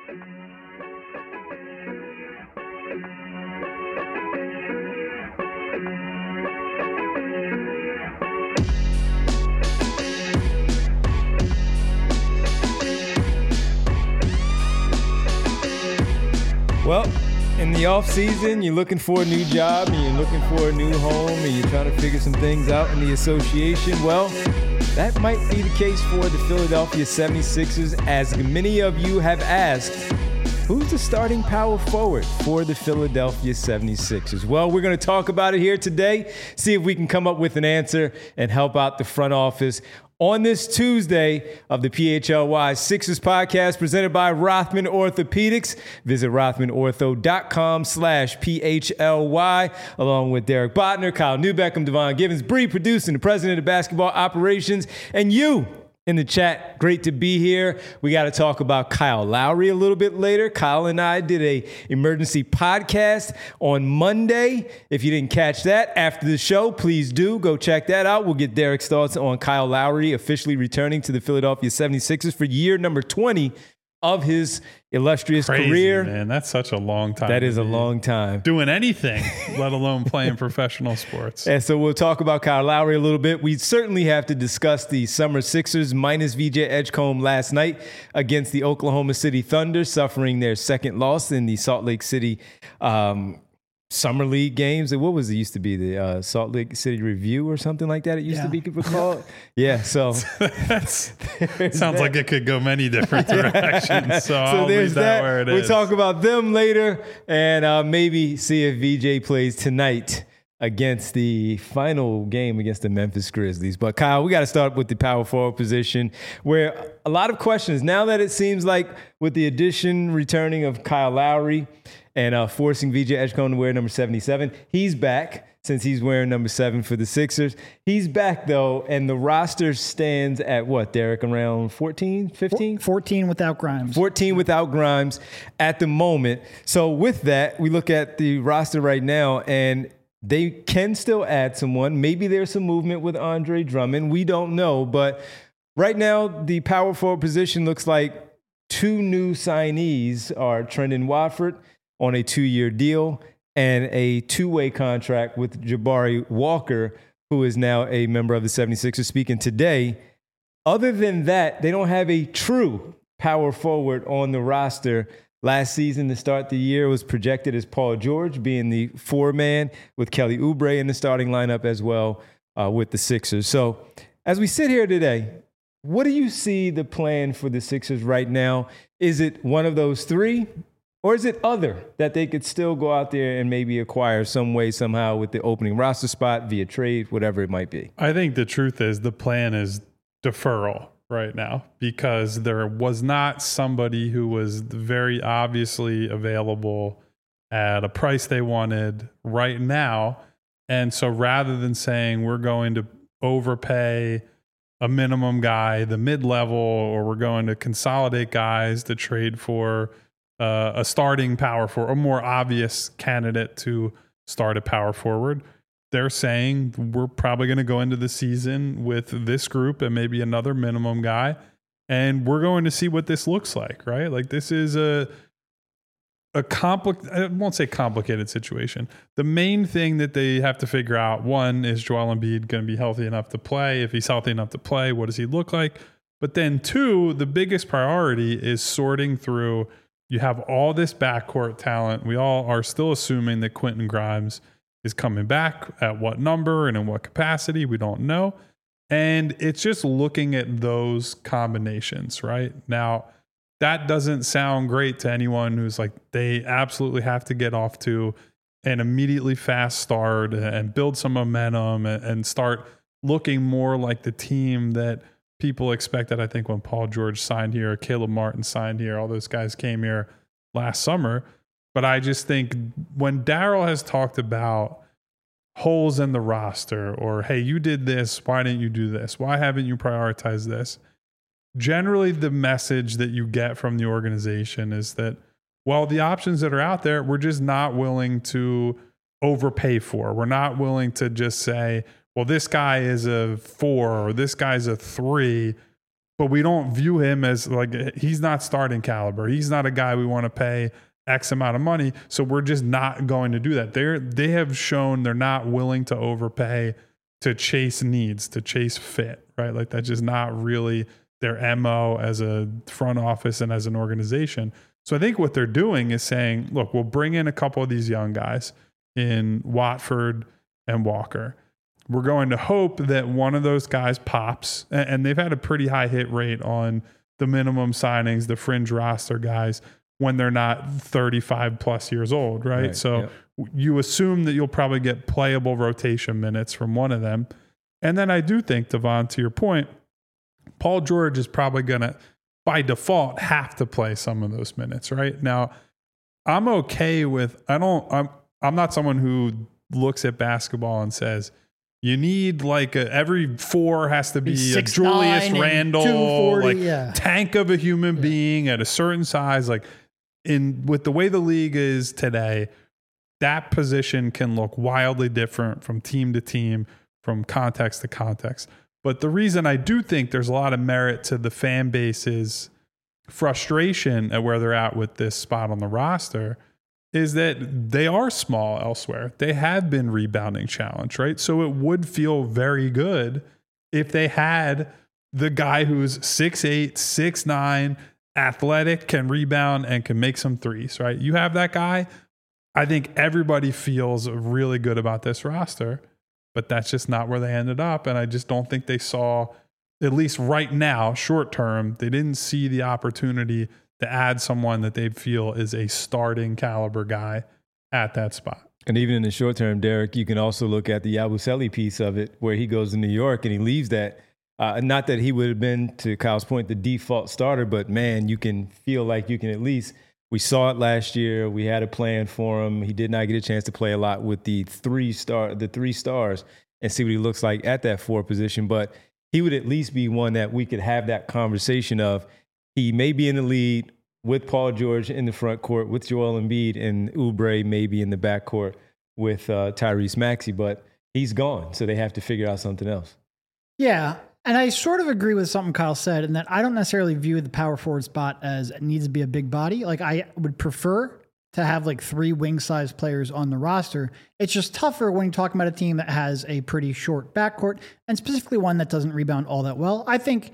Well, in the off season, you're looking for a new job, and you're looking for a new home, and you're trying to figure some things out in the association. Well, that might be the case for the Philadelphia 76ers, as many of you have asked, who's the starting power forward for the Philadelphia 76ers? Well, we're going to talk about it here today, see if we can come up with an answer and help out the front office on this Tuesday of the PHLY Sixers podcast presented by Rothman Orthopedics. Visit rothmanortho.com/PHLY along with Derek Botner, Kyle Newbeckham, Devon Givens, Bree producing, the president of basketball operations, and you in the chat. Great to be here. We got to talk about Kyle Lowry a little bit later. Kyle and I did a emergency podcast on Monday. If you didn't catch that after the show, please do go check that out. We'll get Derek's thoughts on Kyle Lowry officially returning to the Philadelphia 76ers for year number 20 of his illustrious career. Man, that's such a long time. That is a long time. Doing anything, let alone playing professional sports. And so we'll talk about Kyle Lowry a little bit. We certainly have to discuss the Summer Sixers minus VJ Edgecombe last night against the Oklahoma City Thunder, suffering their second loss in the Salt Lake City Summer League games. What was it used to be? The Salt Lake City Review or something like that? It used to be called. Yeah, so sounds like it could go many different directions. So I'll leave that where it is. We'll talk about them later and maybe see if VJ plays tonight against the final game against the Memphis Grizzlies. But Kyle, we got to start with the power forward position, where a lot of questions now that it seems like with the returning of Kyle Lowry and forcing VJ Edgecombe to wear number 77. He's back since he's wearing number 7 for the Sixers. He's back, though, and the roster stands at what, Derek, around 14, 15? 14 without Grimes. 14 without Grimes at the moment. So with that, we look at the roster right now, and they can still add someone. Maybe there's some movement with Andre Drummond. We don't know, but right now the power forward position looks like 2 new signees are Trendon Watford on a 2-year deal and a 2-way contract with Jabari Walker, who is now a member of the 76ers, speaking today. Other than that, they don't have a true power forward on the roster. Last season, to start the year, was projected as Paul George being the 4-man with Kelly Oubre in the starting lineup as well with the Sixers. So as we sit here today, what do you see the plan for the Sixers right now? Is it one of those 3? Or is it other that they could still go out there and maybe acquire some way, somehow with the opening roster spot via trade, whatever it might be? I think the truth is the plan is deferral right now because there was not somebody who was very obviously available at a price they wanted right now. And so rather than saying we're going to overpay a minimum guy, the mid-level, or we're going to consolidate guys to trade for a starting power forward, a more obvious candidate to start a power forward, they're saying we're probably going to go into the season with this group and maybe another minimum guy, and we're going to see what this looks like, right? Like this is I won't say complicated situation. The main thing that they have to figure out, one, is Joel Embiid going to be healthy enough to play? If he's healthy enough to play, what does he look like? But then 2, the biggest priority is sorting through. You have all this backcourt talent. We all are still assuming that Quentin Grimes is coming back. At what number and in what capacity, we don't know. And it's just looking at those combinations, right? Now, that doesn't sound great to anyone who's like, they absolutely have to get off to an immediately fast start and build some momentum and start looking more like the team that people expected. I think when Paul George signed here, Caleb Martin signed here, all those guys came here last summer. But I just think when Daryl has talked about holes in the roster or, hey, you did this, why didn't you do this? Why haven't you prioritized this? Generally, the message that you get from the organization is that, well, the options that are out there, we're just not willing to overpay for. We're not willing to just say, well, this guy is a 4 or this guy's a 3, but we don't view him as like, he's not starting caliber. He's not a guy we want to pay X amount of money. So we're just not going to do that. They have shown they're not willing to overpay to chase needs, to chase fit, right? Like that's just not really their MO as a front office and as an organization. So I think what they're doing is saying, look, we'll bring in a couple of these young guys in Watford and Walker. We're going to hope that one of those guys pops, and they've had a pretty high hit rate on the minimum signings, the fringe roster guys, when they're not 35 plus years old, right? So you assume that you'll probably get playable rotation minutes from one of them. And then I do think, Devon, to your point, Paul George is probably going to, by default, have to play some of those minutes, right? Now, I'm okay with, I'm not someone who looks at basketball and says, you need like every 4 has to be a Julius Randle, like tank of a human being at a certain size. Like with the way the league is today, that position can look wildly different from team to team, from context to context. But the reason I do think there's a lot of merit to the fan base's frustration at where they're at with this spot on the roster is that they are small elsewhere. They have been rebounding challenged, right? So it would feel very good if they had the guy who's 6'8", 6'9", athletic, can rebound, and can make some threes, right? You have that guy. I think everybody feels really good about this roster, but that's just not where they ended up. And I just don't think they saw, at least right now, short term, they didn't see the opportunity to add someone that they feel is a starting caliber guy at that spot. And even in the short term, Derek, you can also look at the Yabusele piece of it, where he goes to New York and he leaves that. Not that he would have been, to Kyle's point, the default starter, but man, you can feel like you can at least, we saw it last year. We had a plan for him. He did not get a chance to play a lot with the three stars and see what he looks like at that 4 position. But he would at least be one that we could have that conversation of. He may be in the lead with Paul George in the front court, with Joel Embiid, and Oubre maybe in the back court with Tyrese Maxey, but he's gone. So they have to figure out something else. Yeah. And I sort of agree with something Kyle said, in that I don't necessarily view the power forward spot as it needs to be a big body. Like, I would prefer to have like 3 wing-sized players on the roster. It's just tougher when you're talking about a team that has a pretty short backcourt, and specifically one that doesn't rebound all that well. I think,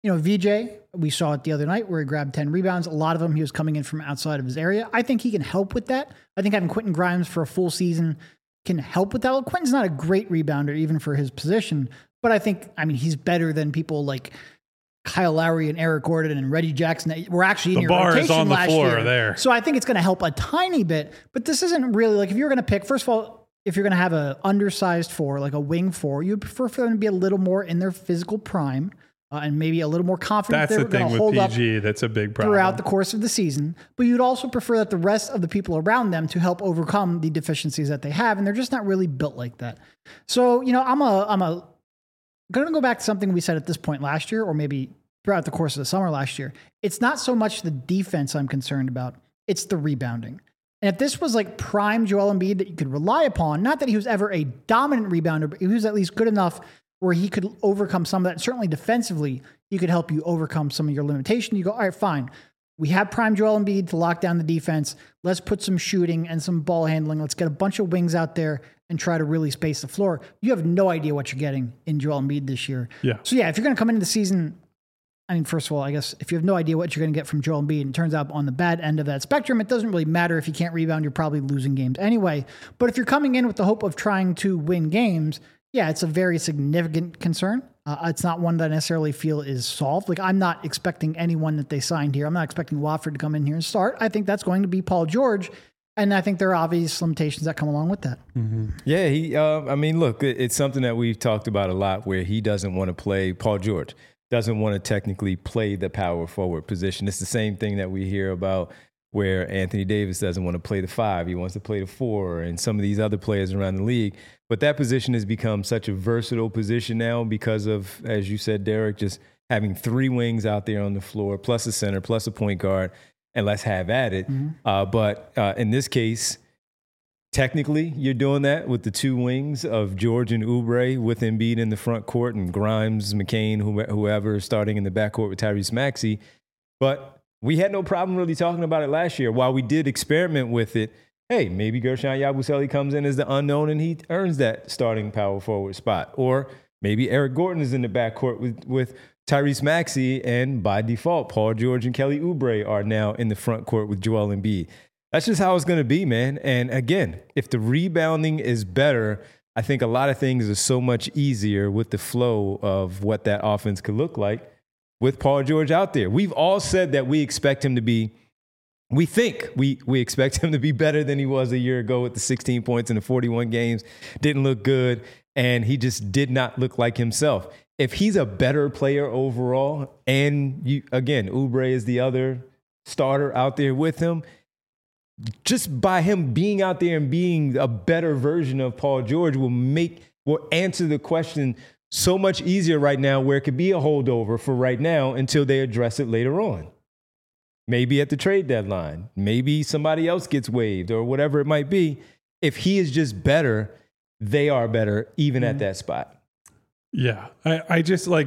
VJ, we saw it the other night where he grabbed 10 rebounds. A lot of them, he was coming in from outside of his area. I think he can help with that. I think having Quentin Grimes for a full season can help with that. Well, Quentin's not a great rebounder, even for his position, but I think, he's better than people like Kyle Lowry and Eric Gordon and Reggie Jackson that were actually in your rotation last year. The bar is on the floor there. So I think it's going to help a tiny bit, but this isn't really like, if you're going to pick, first of all, if you're going to have an undersized 4, like a wing 4, you'd prefer for them to be a little more in their physical prime and maybe a little more confident. That's the thing with PG. That's a big problem throughout the course of the season. But you'd also prefer that the rest of the people around them to help overcome the deficiencies that they have, and they're just not really built like that. So, I'm going to go back to something we said at this point last year, or maybe throughout the course of the summer last year. It's not so much the defense I'm concerned about. It's the rebounding. And if this was like prime Joel Embiid that you could rely upon, not that he was ever a dominant rebounder, but he was at least good enough where he could overcome some of that. Certainly defensively, he could help you overcome some of your limitation. You go, all right, fine. We have prime Joel Embiid to lock down the defense. Let's put some shooting and some ball handling. Let's get a bunch of wings out there and try to really space the floor. You have no idea what you're getting in Joel Embiid this year. Yeah. So yeah, if you're going to come into the season, first of all, I guess if you have no idea what you're going to get from Joel Embiid, and it turns out on the bad end of that spectrum, it doesn't really matter if you can't rebound. You're probably losing games anyway. But if you're coming in with the hope of trying to win games, yeah, it's a very significant concern. It's not one that I necessarily feel is solved. Like, I'm not expecting anyone that they signed here. I'm not expecting Watford to come in here and start. I think that's going to be Paul George. And I think there are obvious limitations that come along with that. Mm-hmm. Yeah, look, it's something that we've talked about a lot, where he doesn't want to play, Paul George doesn't want to technically play the power forward position. It's the same thing that we hear about where Anthony Davis doesn't want to play the 5. He wants to play the 4, and some of these other players around the league. But that position has become such a versatile position now because of, as you said, Derek, just having 3 wings out there on the floor, plus a center, plus a point guard, and let's have at it. Mm-hmm. But in this case, technically, you're doing that with the two wings of George and Oubre with Embiid in the front court and Grimes, McCain, whoever starting in the backcourt with Tyrese Maxey. But we had no problem really talking about it last year. While we did experiment with it, hey, maybe Gershon Yabusele comes in as the unknown and he earns that starting power forward spot. Or maybe Eric Gordon is in the backcourt with Tyrese Maxey, and by default, Paul George and Kelly Oubre are now in the front court with Joel Embiid. That's just how it's going to be, man. And again, if the rebounding is better, I think a lot of things are so much easier with the flow of what that offense could look like with Paul George out there. We've all said that we expect him to be, we expect him to be better than he was a year ago with the 16 points in the 41 games. Didn't look good, and he just did not look like himself. If he's a better player overall, and Oubre is the other starter out there with him, just by him being out there and being a better version of Paul George will answer the question so much easier right now, where it could be a holdover for right now until they address it later on. Maybe at the trade deadline, maybe somebody else gets waived or whatever it might be. If he is just better, they are better even at that spot. Yeah, I just like,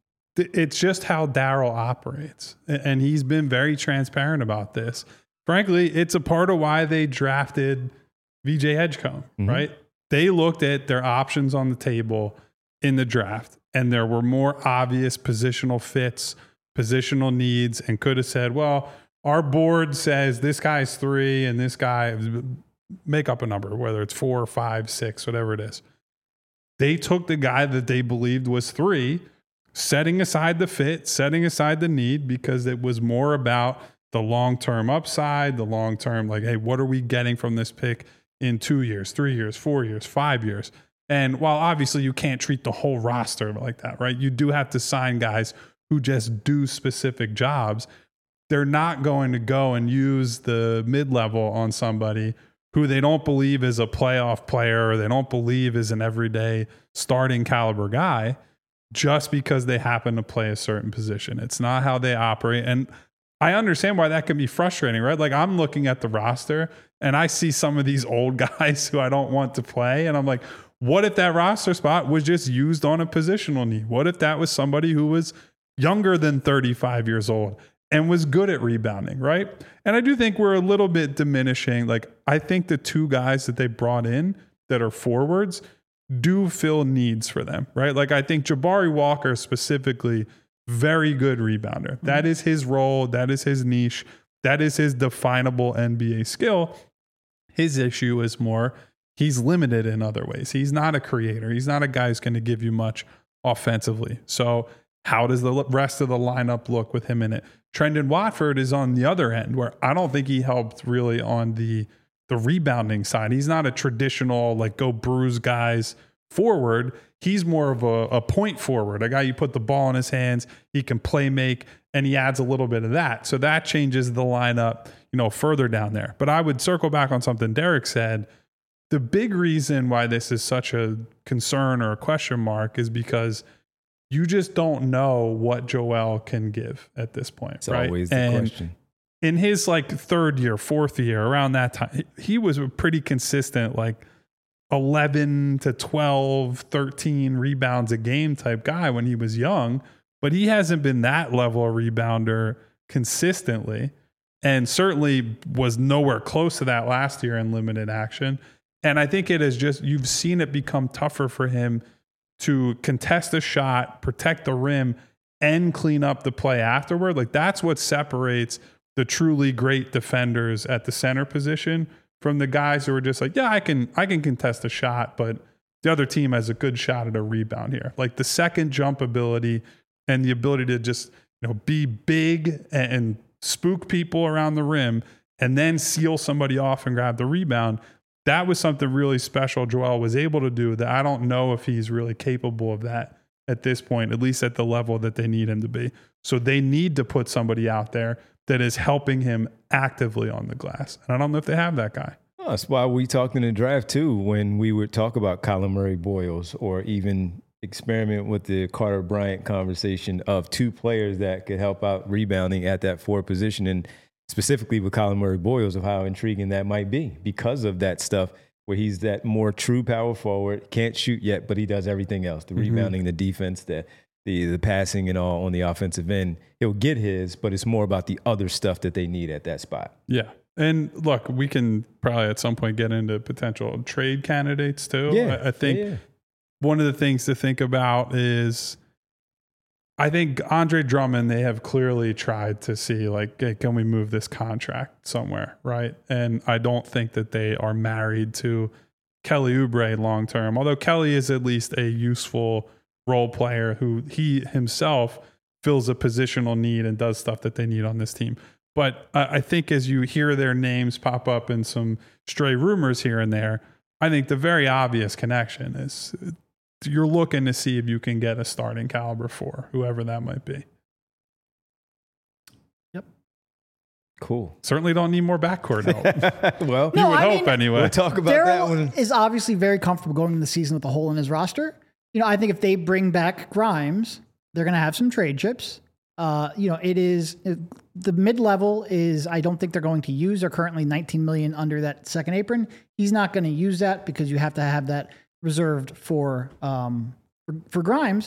it's just how Daryl operates. And he's been very transparent about this. Frankly, it's a part of why they drafted VJ Edgecombe, right? They looked at their options on the table in the draft, and there were more obvious positional fits, positional needs, and could have said, well, our board says this guy's 3 and this guy, make up a number, whether it's 4 or 5, 6, whatever it is. They took the guy that they believed was 3, setting aside the fit, setting aside the need, because it was more about the long-term upside, the long-term, like, hey, what are we getting from this pick in 2 years, 3 years, 4 years, 5 years? And while obviously you can't treat the whole roster like that, right? You do have to sign guys who just do specific jobs. They're not going to go and use the mid-level on somebody who they don't believe is a playoff player, or they don't believe is an everyday starting caliber guy, just because they happen to play a certain position. It's not how they operate. And I understand why that can be frustrating, right? Like, I'm looking at the roster and I see some of these old guys who I don't want to play. And I'm like, what if that roster spot was just used on a positional need? What if that was somebody who was younger than 35 years old and was good at rebounding, right? And I do think we're a little bit diminishing. Like, I think the 2 guys that they brought in that are forwards do fill needs for them, right? Like, I think Jabari Walker specifically, very good rebounder. That is his role. That is his niche. That is his definable NBA skill. His issue is more, he's limited in other ways. He's not a creator. He's not a guy who's going to give you much offensively. So how does the rest of the lineup look with him in it? Trendon Watford is on the other end, where I don't think he helped really on the rebounding side. He's not a traditional, like, go bruise guys forward. He's more of a point forward, a guy you put the ball in his hands, he can play make, and he adds a little bit of that. So that changes the lineup, further down there. But I would circle back on something Derek said. The big reason why this is such a concern or a question mark is because you just don't know what Joel can give at this point. It's always the question. In his third year, fourth year, around that time, he was a pretty consistent, 11 to 12, 13 rebounds a game type guy when he was young, but he hasn't been that level of rebounder consistently, and certainly was nowhere close to that last year in limited action. And I think it is just, you've seen it become tougher for him to contest a shot, protect the rim, and clean up the play afterward. Like, that's what separates the truly great defenders at the center position from the guys who are just like, yeah, I can contest a shot, but the other team has a good shot at a rebound here. Like, the second jump ability and the ability to just, be big and spook people around the rim and then seal somebody off and grab the rebound. That was something really special Joel was able to do that I don't know if he's really capable of that at this point, at least at the level that they need him to be. So they need to put somebody out there that is helping him actively on the glass. And I don't know if they have that guy. Oh, that's why we talked in the draft too, when we would talk about Colin Murray Boyles, or even experiment with the Carter Bryant conversation of 2 players that could help out rebounding at that 4 position. And specifically with Colin Murray Boyles, of how intriguing that might be because of that stuff where he's that more true power forward. Can't shoot yet, but he does everything else: the rebounding, the defense, the passing, and all on the offensive end. He'll get his, but it's more about the other stuff that they need at that spot. Yeah. And look, we can probably at some point get into potential trade candidates too. Yeah. I think one of the things to think about is, I think Andre Drummond, they have clearly tried to see, like, hey, can we move this contract somewhere, right? And I don't think that they are married to Kelly Oubre long term, although Kelly is at least a useful role player who he himself fills a positional need and does stuff that they need on this team. But I think as you hear their names pop up in some stray rumors here and there, I think the very obvious connection is you're looking to see if you can get a starting caliber for whoever that might be. Yep. Cool. Certainly don't need more backcourt help. Well, you would hope anyway. We'll talk about that one. Daryl is obviously very comfortable going into the season with a hole in his roster. I think if they bring back Grimes, they're going to have some trade chips. The mid-level is, I don't think they're going to use. They're currently $19 million under that second apron. He's not going to use that because you have to have that reserved for Grimes.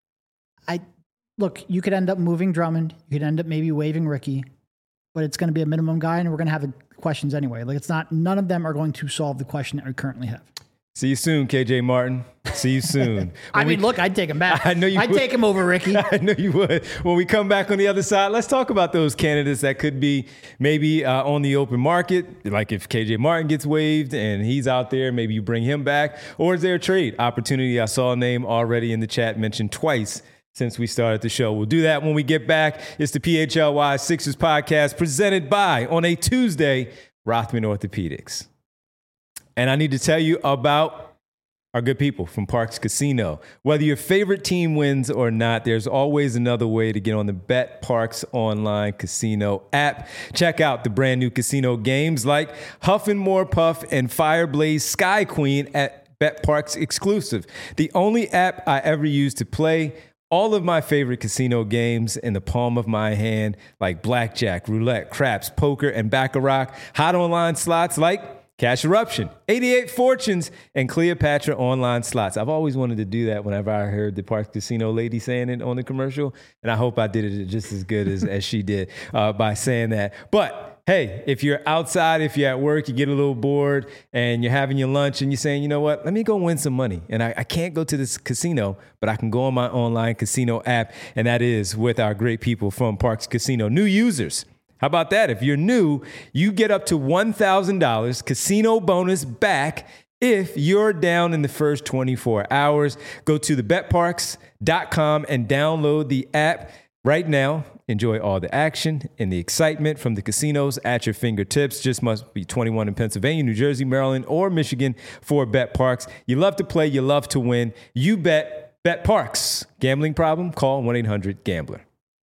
Look, you could end up moving Drummond. You could end up maybe waiving Ricky, but it's going to be a minimum guy, and we're going to have the questions anyway. Like, none of them are going to solve the question that we currently have. See you soon, KJ Martin. See you soon. Look, I'd take him back. I know you would. I'd take him over Ricky. I know you would. When we come back on the other side, let's talk about those candidates that could be maybe on the open market. Like if KJ Martin gets waived and he's out there, maybe you bring him back. Or is there a trade opportunity? I saw a name already in the chat mentioned twice since we started the show. We'll do that when we get back. It's the PHLY Sixers podcast presented by, on a Tuesday, Rothman Orthopedics. And I need to tell you about our good people from Parx Casino. Whether your favorite team wins or not, there's always another way to get on the BetParx online casino app. Check out the brand new casino games like Huff and More Puff and Fireblaze Sky Queen at BetParx exclusive. The only app I ever used to play all of my favorite casino games in the palm of my hand, like blackjack, roulette, craps, poker, and baccarat. Hot online slots like Cash Eruption, 88 Fortunes, and Cleopatra online slots. I've always wanted to do that whenever I heard the Parx Casino lady saying it on the commercial, and I hope I did it just as good as she did by saying that. But hey, if you're outside, if you're at work, you get a little bored, and you're having your lunch, and you're saying, you know what, let me go win some money. And I can't go to this casino, but I can go on my online casino app, and that is with our great people from Parx Casino. New users. How about that? If you're new, you get up to $1,000 casino bonus back if you're down in the first 24 hours. Go to thebetparx.com and download the app right now. Enjoy all the action and the excitement from the casinos at your fingertips. Just must be 21 in Pennsylvania, New Jersey, Maryland, or Michigan for BetParx. You love to play. You love to win. You bet BetParx. Gambling problem? Call 1-800-GAMBLER.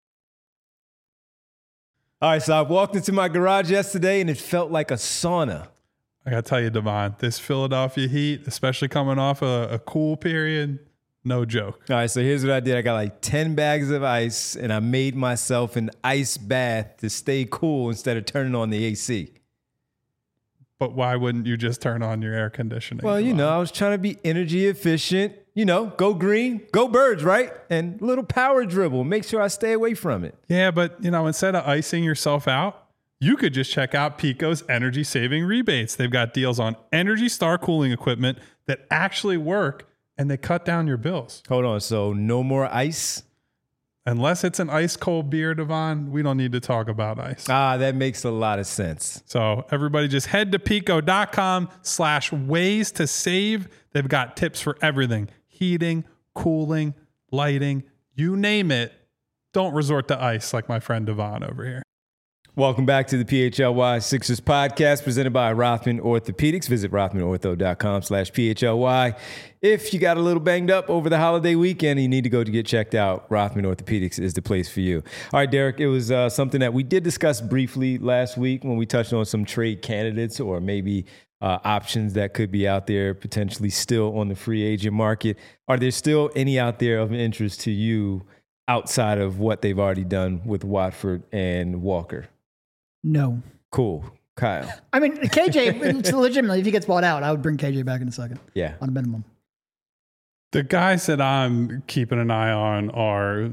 All right, so I walked into my garage yesterday, and it felt like a sauna. I got to tell you, Devon, this Philadelphia heat, especially coming off a cool period, no joke. All right, so here's what I did. I got like 10 bags of ice, and I made myself an ice bath to stay cool instead of turning on the AC. But why wouldn't you just turn on your air conditioning? Well, I was trying to be energy efficient. Go green, go birds, right? And a little power dribble. Make sure I stay away from it. Yeah, but, instead of icing yourself out, you could just check out Pico's energy saving rebates. They've got deals on Energy Star cooling equipment that actually work, and they cut down your bills. Hold on. So no more ice? Unless it's an ice cold beer, Devon, we don't need to talk about ice. That makes a lot of sense. So everybody just head to pico.com/ways to save. They've got tips for everything. Heating, cooling, lighting, you name it. Don't resort to ice like my friend Devon over here. Welcome back to the PHLY Sixers podcast presented by Rothman Orthopedics. Visit rothmanortho.com/PHLY. If you got a little banged up over the holiday weekend and you need to go to get checked out, Rothman Orthopedics is the place for you. All right, Derek, it was something that we did discuss briefly last week when we touched on some trade candidates or maybe options that could be out there potentially still on the free agent market. Are there still any out there of interest to you outside of what they've already done with Watford and Walker? No. Cool. Kyle. I mean, KJ, legitimately, if he gets bought out, I would bring KJ back in a second. Yeah. On a minimum. The guys that I'm keeping an eye on are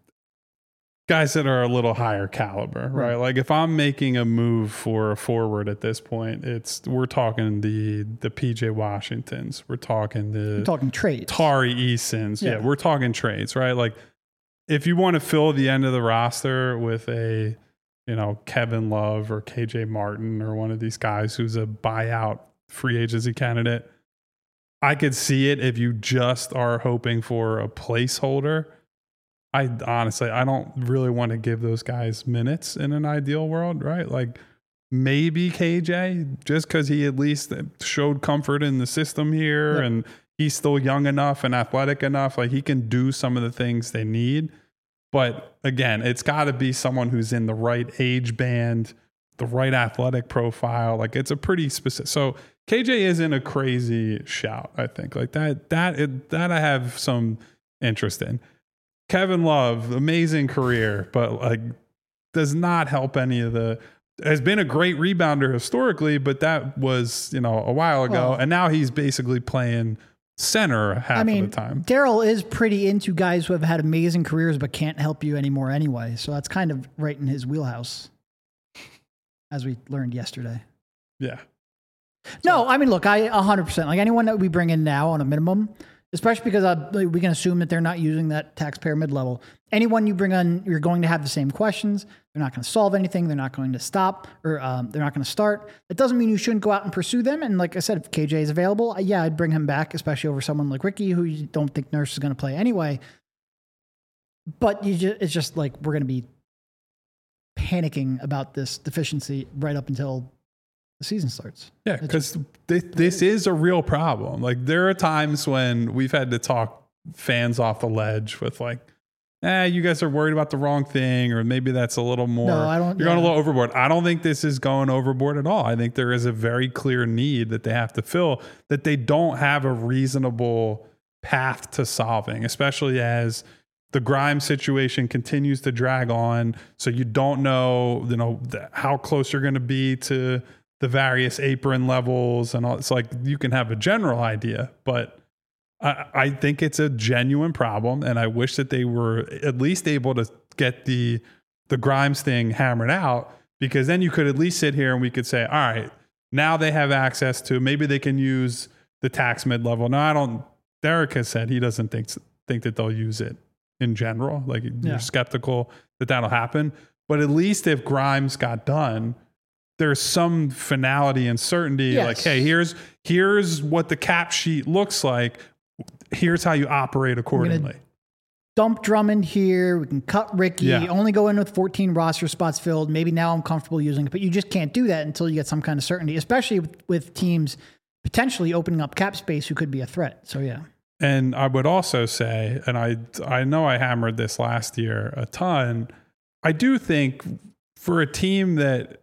guys that are a little higher caliber, right? Like if I'm making a move for a forward at this point, we're talking the PJ Washingtons, we're talking trades, Tari Easons, yeah, we're talking trades, right? Like if you want to fill the end of the roster with a Kevin Love or KJ Martin or one of these guys who's a buyout free agency candidate, I could see it if you just are hoping for a placeholder. I don't really want to give those guys minutes in an ideal world, right? Like maybe KJ, just because he at least showed comfort in the system here and he's still young enough and athletic enough, like he can do some of the things they need. But again, it's got to be someone who's in the right age band, the right athletic profile. Like it's a pretty specific. So KJ isn't a crazy shout, I think. Like that I have some interest in. Kevin Love, amazing career, but like does not help any of has been a great rebounder historically, but that was, a while ago. And now he's basically playing center half of the time. Daryl is pretty into guys who have had amazing careers, but can't help you anymore anyway. So that's kind of right in his wheelhouse, as we learned yesterday. Yeah. No, I mean, look, I 100%, like anyone that we bring in now on a minimum, especially because we can assume that they're not using that taxpayer mid-level. Anyone you bring on, you're going to have the same questions. They're not going to solve anything. They're not going to stop or they're not going to start. That doesn't mean you shouldn't go out and pursue them. And like I said, if KJ is available, I'd bring him back, especially over someone like Ricky, who you don't think Nurse is going to play anyway. But it's just like we're going to be panicking about this deficiency right up until the season starts. Yeah, because this is a real problem. Like there are times when we've had to talk fans off the ledge with like, you guys are worried about the wrong thing, or maybe that's a little more. No, I don't. You're going a little overboard. I don't think this is going overboard at all. I think there is a very clear need that they have to fill that they don't have a reasonable path to solving, especially as the Grimes situation continues to drag on. So you don't know, how close you're going to be to the various apron levels and all. It's like you can have a general idea, but I think it's a genuine problem, and I wish that they were at least able to get the Grimes thing hammered out, because then you could at least sit here and we could say, all right, now they have access to, maybe they can use the tax mid-level. No, Derek has said he doesn't think that they'll use it in general. Like you're skeptical that that'll happen, but at least if Grimes got done, there's some finality and certainty. Yes. Like, hey, here's what the cap sheet looks like. Here's how you operate accordingly. Dump Drummond here. We can cut Ricky. Only go in with 14 roster spots filled. Maybe now I'm comfortable using it, but you just can't do that until you get some kind of certainty, especially with teams potentially opening up cap space who could be a threat. So, yeah. And I would also say, and I know I hammered this last year a ton, I do think for a team that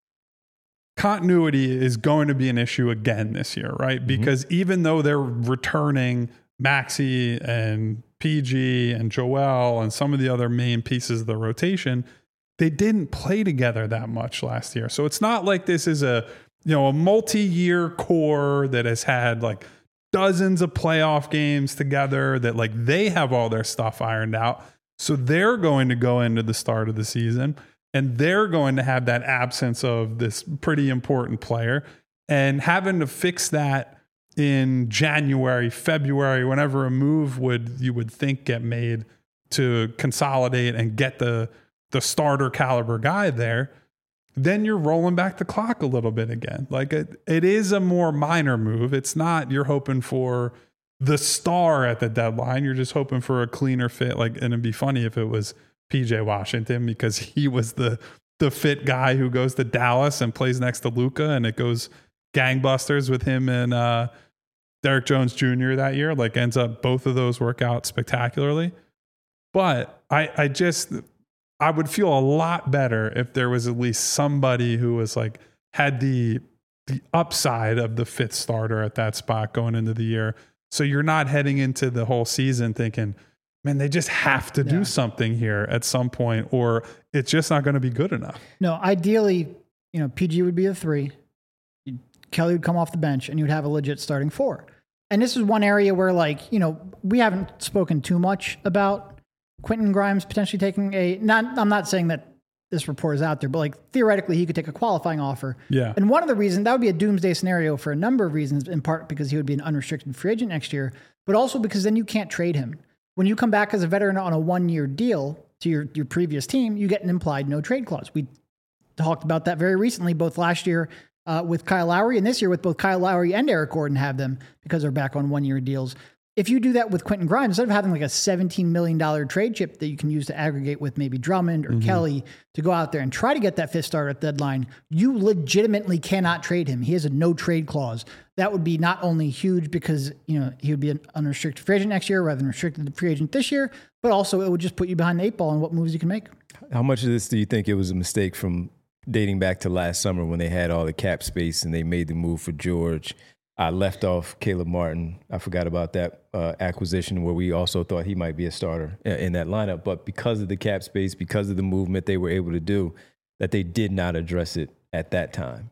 continuity is going to be an issue again this year, right? Because even though they're returning Maxey and PG and Joel and some of the other main pieces of the rotation, they didn't play together that much last year. So it's not like this is a multi-year core that has had like dozens of playoff games together, that like they have all their stuff ironed out. So they're going to go into the start of the season and they're going to have that absence of this pretty important player, and having to fix that in January, February, whenever a move you would think get made to consolidate and get the starter caliber guy there, then you're rolling back the clock a little bit again. Like it is a more minor move. It's not you're hoping for the star at the deadline. You're just hoping for a cleaner fit. Like, and it'd be funny if it was PJ Washington, because he was the fit guy who goes to Dallas and plays next to Luka, and it goes gangbusters with him and Derek Jones Jr. that year. Like ends up both of those work out spectacularly. But I would feel a lot better if there was at least somebody who was like had the upside of the fifth starter at that spot going into the year. So you're not heading into the whole season thinking, man, they just have to do something here at some point, or it's just not going to be good enough. No, ideally, PG would be a 3. Kelly would come off the bench, and you'd have a legit starting 4. And this is one area where, we haven't spoken too much about Quentin Grimes potentially taking I'm not saying that this report is out there, but theoretically he could take a qualifying offer. Yeah. And one of the reasons, that would be a doomsday scenario for a number of reasons, in part because he would be an unrestricted free agent next year, but also because then you can't trade him. When you come back as a veteran on a 1-year deal to your previous team, you get an implied no trade clause. We talked about that very recently, both last year with Kyle Lowry and this year with both Kyle Lowry and Eric Gordon have them because they're back on 1-year deals. If you do that with Quentin Grimes, instead of having a $17 million trade chip that you can use to aggregate with maybe Drummond or Kelly to go out there and try to get that 5th starter at the deadline, you legitimately cannot trade him. He has a no trade clause. That would be not only huge because, he would be an unrestricted free agent next year rather than restricted free agent this year, but also it would just put you behind the 8 ball on what moves you can make. How much of this do you think it was a mistake from dating back to last summer when they had all the cap space and they made the move for George? I left off Caleb Martin. I forgot about that acquisition where we also thought he might be a starter in that lineup. But because of the cap space, because of the movement they were able to do, that they did not address it at that time.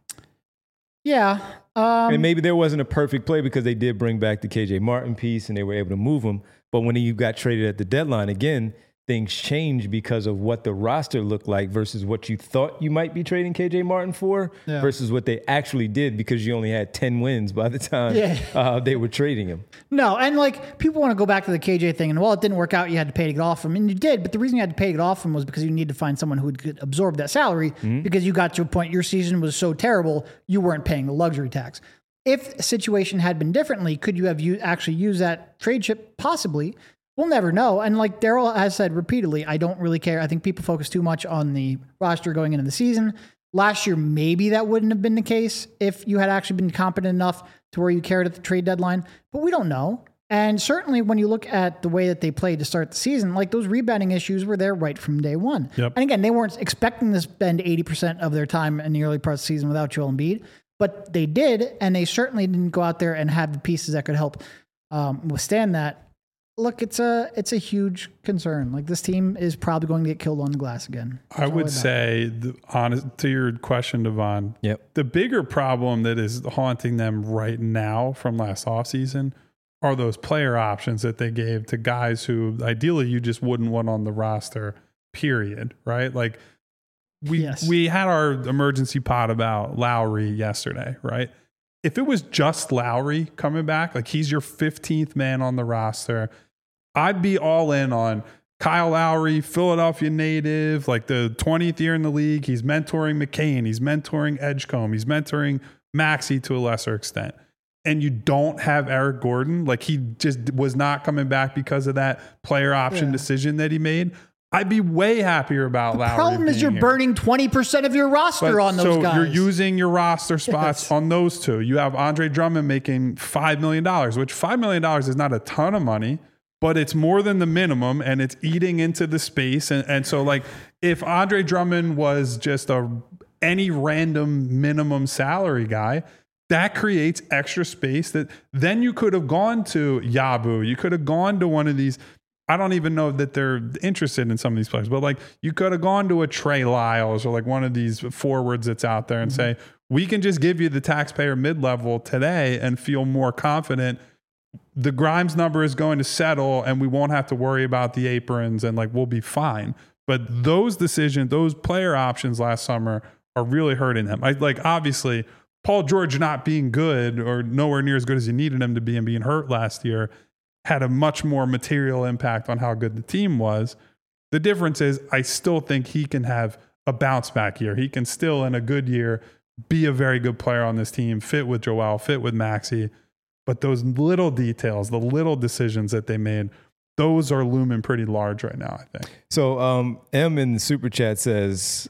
Yeah. And maybe there wasn't a perfect play because they did bring back the KJ Martin piece and they were able to move him. But when you got traded at the deadline, again, things changed because of what the roster looked like versus what you thought you might be trading KJ Martin for versus what they actually did because you only had 10 wins by the time they were trading him. No, and people want to go back to the KJ thing and, it didn't work out. You had to pay to get off him. And you did, but the reason you had to pay to get off him was because you needed to find someone who could absorb that salary because you got to a point your season was so terrible, you weren't paying the luxury tax. If the situation had been differently, could you have actually used that trade chip? Possibly. We'll never know. And Daryl has said repeatedly, I don't really care. I think people focus too much on the roster going into the season. Last year, maybe that wouldn't have been the case if you had actually been competent enough to where you cared at the trade deadline. But we don't know. And certainly when you look at the way that they played to start the season, those rebounding issues were there right from day one. Yep. And again, they weren't expecting to spend 80% of their time in the early part of the season without Joel Embiid. But they did, and they certainly didn't go out there and have the pieces that could help withstand that. Look, it's a huge concern. This team is probably going to get killed on the glass again. I would say, to your question, Devon, the bigger problem that is haunting them right now from last offseason are those player options that they gave to guys who ideally you just wouldn't want on the roster, period, right? We had our emergency pod about Lowry yesterday, right? If it was just Lowry coming back, he's your 15th man on the roster, I'd be all in on Kyle Lowry, Philadelphia native, the 20th year in the league. He's mentoring McCain. He's mentoring Edgecombe. He's mentoring Maxey to a lesser extent. And you don't have Eric Gordon. He just was not coming back because of that player option decision that he made. I'd be way happier about Lowry. The problem is you're burning 20% of your roster on those guys. So you're using your roster spots on those two. You have Andre Drummond making $5 million, which $5 million is not a ton of money, but it's more than the minimum and it's eating into the space. And so if Andre Drummond was just any random minimum salary guy, that creates extra space that then you could have gone to Yabu. You could have gone to one of these. I don't even know that they're interested in some of these players, but you could have gone to a Trey Lyles or one of these forwards that's out there and say, we can just give you the taxpayer mid-level today and feel more confident. The Grimes number is going to settle and we won't have to worry about the aprons and we'll be fine. But those decisions, those player options last summer are really hurting them. Obviously Paul George not being good or nowhere near as good as you needed him to be and being hurt last year had a much more material impact on how good the team was. The difference is I still think he can have a bounce back year. He can still, in a good year, be a very good player on this team, fit with Joel, fit with Maxey. But those little details, the little decisions that they made, those are looming pretty large right now, I think. So M in the Super Chat says,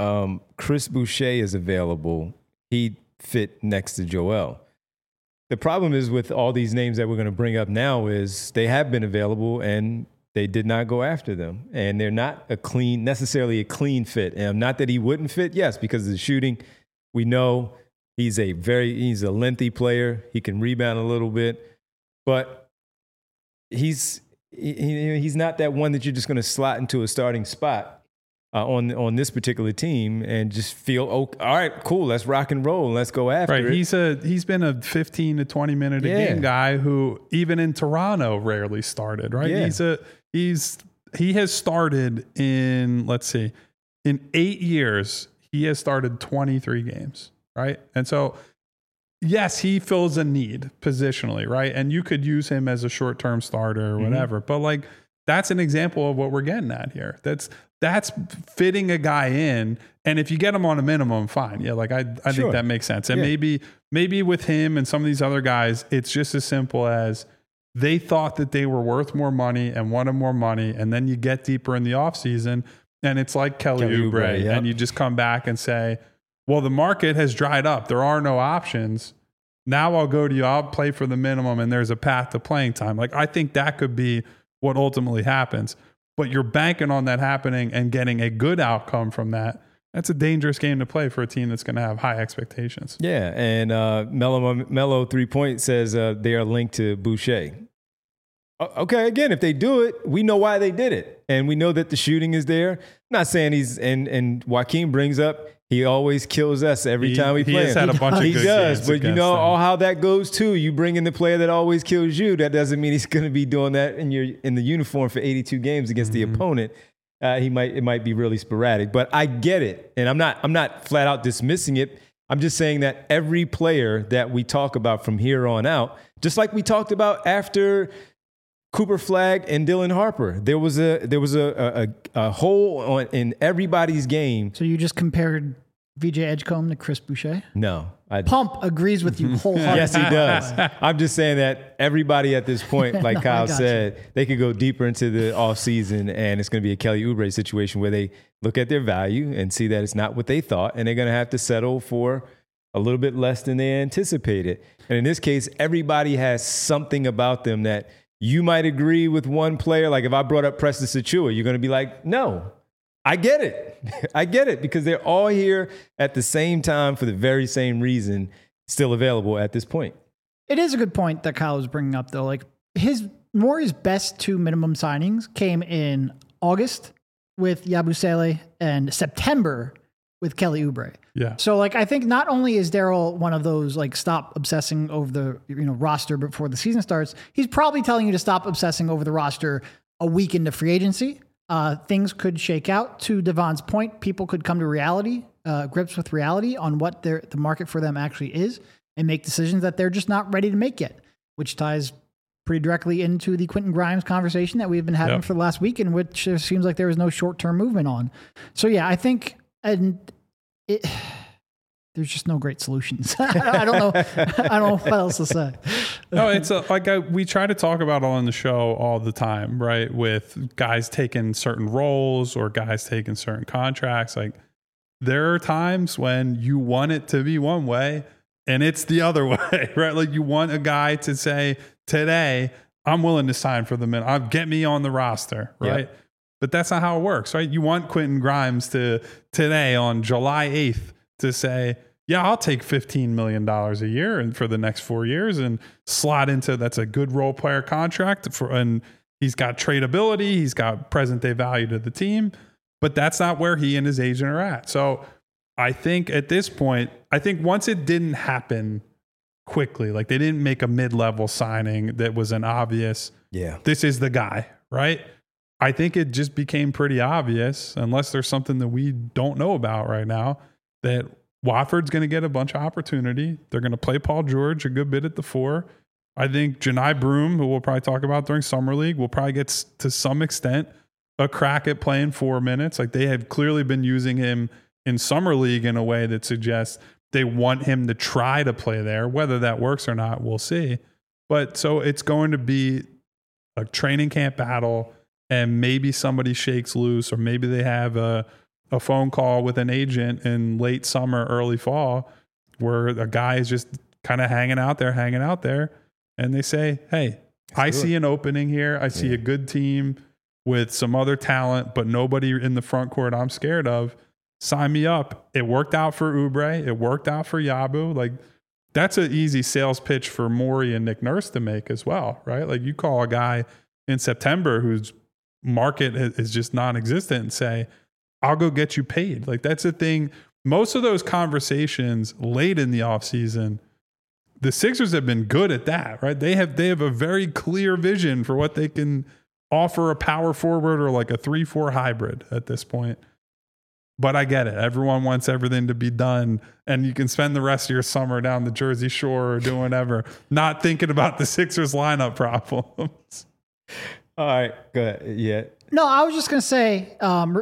Chris Boucher is available. He'd fit next to Joel. The problem is with all these names that we're going to bring up now is they have been available and they did not go after them. And they're not necessarily a clean fit. And not that he wouldn't fit, yes, because of the shooting. We know he's a lengthy player. He can rebound a little bit. But he's not that one that you're just going to slot into a starting spot. on this particular team and just feel, all right, cool, let's rock and roll, let's go after it. He's been a 15 to 20 minute a game guy who even in Toronto rarely started, right? Yeah. He has started in, let's see, in 8 years, he has started 23 games, right? And so, yes, he fills a need positionally, right? And you could use him as a short-term starter or whatever, but like that's an example of what we're getting at here. That's fitting a guy in, and if you get him on a minimum, fine. Yeah, like I think that makes sense. And maybe with him and some of these other guys, it's just as simple as they thought that they were worth more money and wanted more money, and then you get deeper in the offseason, and it's like Kelly Oubre, and you just come back and say, well, the market has dried up. There are no options. Now I'll go to you. I'll play for the minimum, and there's a path to playing time. Like I think that could be what ultimately happens. But you're banking on that happening and getting a good outcome from that. That's a dangerous game to play for a team that's going to have high expectations. Yeah, and Mello 3 Point says they are linked to Boucher. Okay, again, if they do it, we know why they did it. And we know that the shooting is there. I'm not saying he's, and Joaquin brings up, he always kills us every time we play him. He has had a bunch of good games. He does, but you know all how that goes too. You bring in the player that always kills you. That doesn't mean he's going to be doing that in the uniform for 82 games against the opponent. It might be really sporadic, but I get it, and I'm not flat out dismissing it. I'm just saying that every player that we talk about from here on out, just like we talked about after Cooper Flagg and Dylan Harper, there was a hole in everybody's game. So you just compared VJ Edgecombe to Chris Boucher? No. Pump agrees with you wholeheartedly. Yes, he does. I'm just saying that everybody at this point, like Kyle said, they could go deeper into the offseason, and it's going to be a Kelly Oubre situation where they look at their value and see that it's not what they thought, and they're going to have to settle for a little bit less than they anticipated. And in this case, everybody has something about them that you might agree with one player. Like if I brought up Preston Sachua, you're going to be like, no. I get it. I get it because they're all here at the same time for the very same reason, still available at this point. It is a good point that Kyle was bringing up, though. Like Morey's best two minimum signings came in August with Yabusele and September with Kelly Oubre. Yeah. So like I think not only is Daryl one of those like stop obsessing over the roster before the season starts, he's probably telling you to stop obsessing over the roster a week into free agency. Things could shake out. To Devon's point, people could come to reality, grips with reality on what the market for them actually is, and make decisions that they're just not ready to make yet, which ties pretty directly into the Quentin Grimes conversation that we've been having for the last week, in which it seems like there was no short-term movement on. So yeah, I think there's just no great solutions. I don't know what else to say. No, it's we try to talk about on the show all the time, right? With guys taking certain roles or guys taking certain contracts. Like there are times when you want it to be one way and it's the other way, right? Like you want a guy to say today, I'm willing to sign for the minute. Get me on the roster, right? Yep. But that's not how it works, right? You want Quentin Grimes to today on July 8th to say, yeah, I'll take $15 million a year and for the next 4 years and slot into that's a good role player contract and he's got tradability, he's got present day value to the team, but that's not where he and his agent are at. So I think at this point, once it didn't happen quickly, like they didn't make a mid-level signing that was an obvious, this is the guy, right? I think it just became pretty obvious, unless there's something that we don't know about right now, that Watford's going to get a bunch of opportunity. They're going to play Paul George a good bit at the 4. I think Janai Broom, who we'll probably talk about during Summer League, will probably get to some extent a crack at playing 4 minutes. Like they have clearly been using him in Summer League in a way that suggests they want him to try to play there. Whether that works or not, we'll see. But so it's going to be a training camp battle, and maybe somebody shakes loose, or maybe they have a phone call with an agent in late summer, early fall, where a guy is just kind of hanging out there, and they say, hey, I see an opening here. I see a good team with some other talent, but nobody in the front court I'm scared of. Sign me up. It worked out for Oubre. It worked out for Yabu. Like that's an easy sales pitch for Morey and Nick Nurse to make as well, right? Like you call a guy in September whose market is just non-existent and say, I'll go get you paid. Like that's the thing. Most of those conversations late in the offseason, the Sixers have been good at that, right? They have a very clear vision for what they can offer a power forward or like a 3-4 hybrid at this point. But I get it. Everyone wants everything to be done, and you can spend the rest of your summer down the Jersey Shore or doing whatever, not thinking about the Sixers lineup problems. All right, go ahead. Yeah. No, I was just going to say,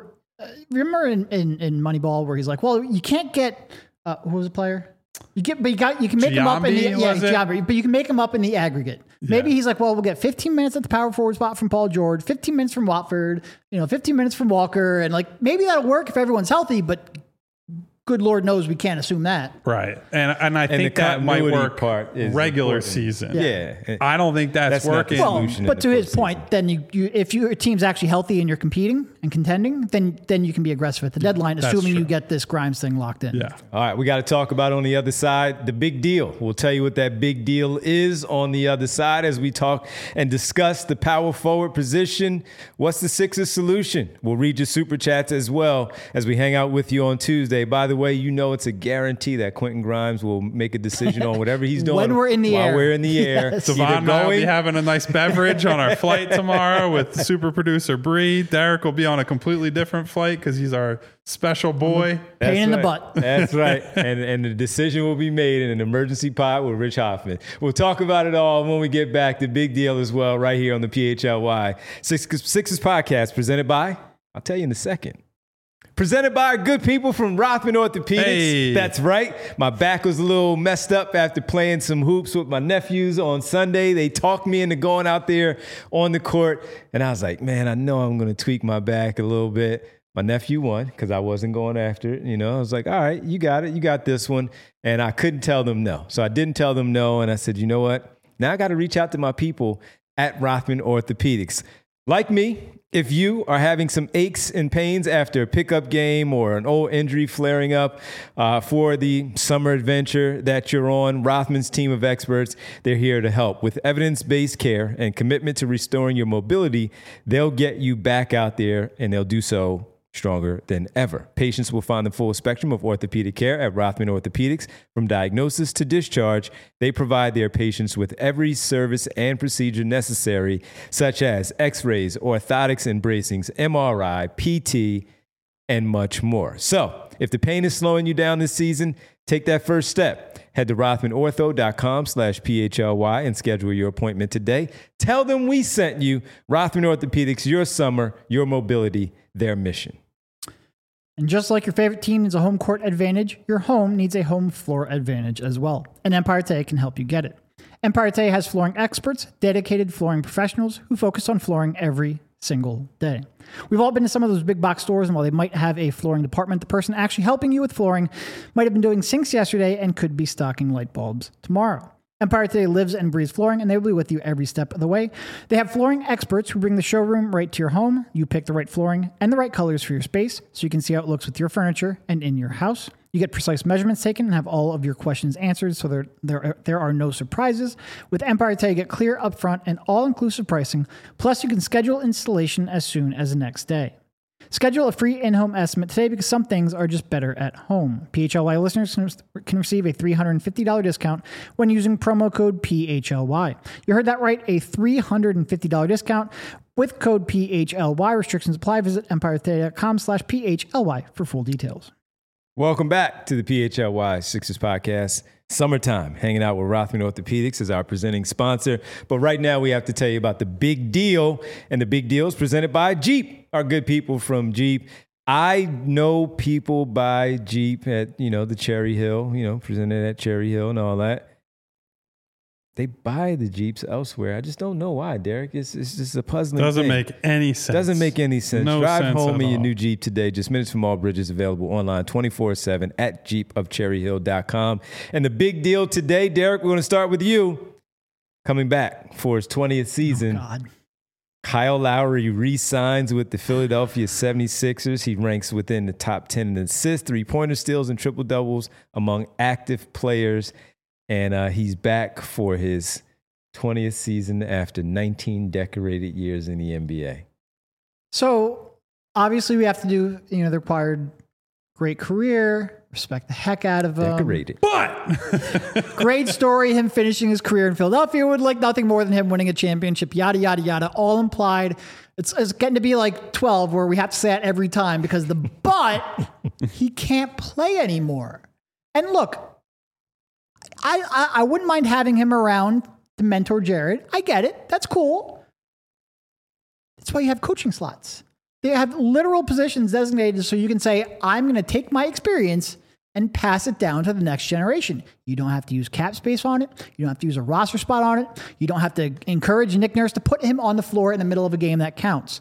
remember in Moneyball where he's like, well, you can't get, who was the player? You can make him up in the, but you can make him up in the aggregate. Maybe he's like, well, we'll get 15 minutes at the power forward spot from Paul George, 15 minutes from Watford, 15 minutes from Walker. And like, maybe that'll work if everyone's healthy, but good Lord knows we can't assume that. Right. And I think that might work regular important. Season. Yeah. I don't think that's working. Well, but to his point, then you if your team's actually healthy and you're competing and contending, then you can be aggressive at the deadline, assuming you get this Grimes thing locked in. Yeah. All right, we got to talk about on the other side, the big deal. We'll tell you what that big deal is on the other side as we talk and discuss the power forward position. What's the Sixers solution? We'll read your super chats as well as we hang out with you on Tuesday. By the way, it's a guarantee that Quentin Grimes will make a decision on whatever he's doing when we're in the while air. We're in the air. Yes. Savon and I will be having a nice beverage on our flight tomorrow with super producer Bree. Derek will be on a completely different flight because he's our special boy. Pain in the butt. That's right. And the decision will be made in an emergency pod with Rich Hoffman. We'll talk about it all when we get back. The big deal as well right here on the PHLY Sixers podcast presented by, I'll tell you in a second. Presented by our good people from Rothman Orthopedics. Hey. That's right. My back was a little messed up after playing some hoops with my nephews on Sunday. They talked me into going out there on the court. And I was like, man, I know I'm going to tweak my back a little bit. My nephew won because I wasn't going after it. I was like, all right, you got it. You got this one. And I couldn't tell them no. So I didn't tell them no. And I said, you know what? Now I got to reach out to my people at Rothman Orthopedics. Like me, if you are having some aches and pains after a pickup game or an old injury flaring up for the summer adventure that you're on, Rothman's team of experts, they're here to help. With evidence-based care and commitment to restoring your mobility, they'll get you back out there, and they'll do so stronger than ever. Patients will find the full spectrum of orthopedic care at Rothman Orthopedics. From diagnosis to discharge, they provide their patients with every service and procedure necessary, such as x-rays, orthotics and bracings, MRI, PT, and much more. So, if the pain is slowing you down this season, take that first step. Head to rothmanortho.com/PHLY and schedule your appointment today. Tell them we sent you. Rothman Orthopedics, your summer, your mobility, their mission. And just like your favorite team needs a home court advantage, your home needs a home floor advantage as well. And Empire Tay can help you get it. Empire Tay has flooring experts, dedicated flooring professionals who focus on flooring every single day. We've all been to some of those big box stores, and while they might have a flooring department, the person actually helping you with flooring might have been doing sinks yesterday and could be stocking light bulbs tomorrow. Empire Today lives and breathes flooring, and they will be with you every step of the way. They have flooring experts who bring the showroom right to your home. You pick the right flooring and the right colors for your space so you can see how it looks with your furniture and in your house. You get precise measurements taken and have all of your questions answered so there are no surprises. With Empire Today, you get clear upfront and all-inclusive pricing, plus you can schedule installation as soon as the next day. Schedule a free in-home estimate today because some things are just better at home. PHLY listeners can receive a $350 discount when using promo code PHLY. You heard that right, a $350 discount with code PHLY. Restrictions apply. Visit empiretoday.com/PHLY for full details. Welcome back to the PHLY Sixers podcast. Summertime, hanging out with Rothman Orthopedics as our presenting sponsor. But right now we have to tell you about the big deal, and the big deal is presented by Jeep, our good people from Jeep. I know people buy Jeep at, the Cherry Hill, presented at Cherry Hill and all that. They buy the Jeeps elsewhere. I just don't know why, Derek. It's just a puzzling Doesn't thing. make any sense. Doesn't make any sense. No Drive sense home at in your all. new Jeep today. Just minutes from all bridges, available online 24/7 at jeepofcherryhill.com. And the big deal today, Derek, we're going to start with you. Coming back for his 20th season, Kyle Lowry re-signs with the Philadelphia 76ers. He ranks within the top 10 in assists, three-pointer steals, and triple-doubles among active players. And he's back for his 20th season after 19 decorated years in the NBA. So Obviously, we have to do, the required great career, respect the heck out of him. Decorated. But Great story, him finishing his career in Philadelphia would like nothing more than him winning a championship, yada, yada, yada, all implied. It's getting to be like 12 where we have to say it every time because he can't play anymore. And look, I wouldn't mind having him around to mentor Jared. I get it. That's cool. That's why you have coaching slots. They have literal positions designated so you can say, I'm going to take my experience and pass it down to the next generation. You don't have to use cap space on it. You don't have to use a roster spot on it. You don't have to encourage Nick Nurse to put him on the floor in the middle of a game that counts.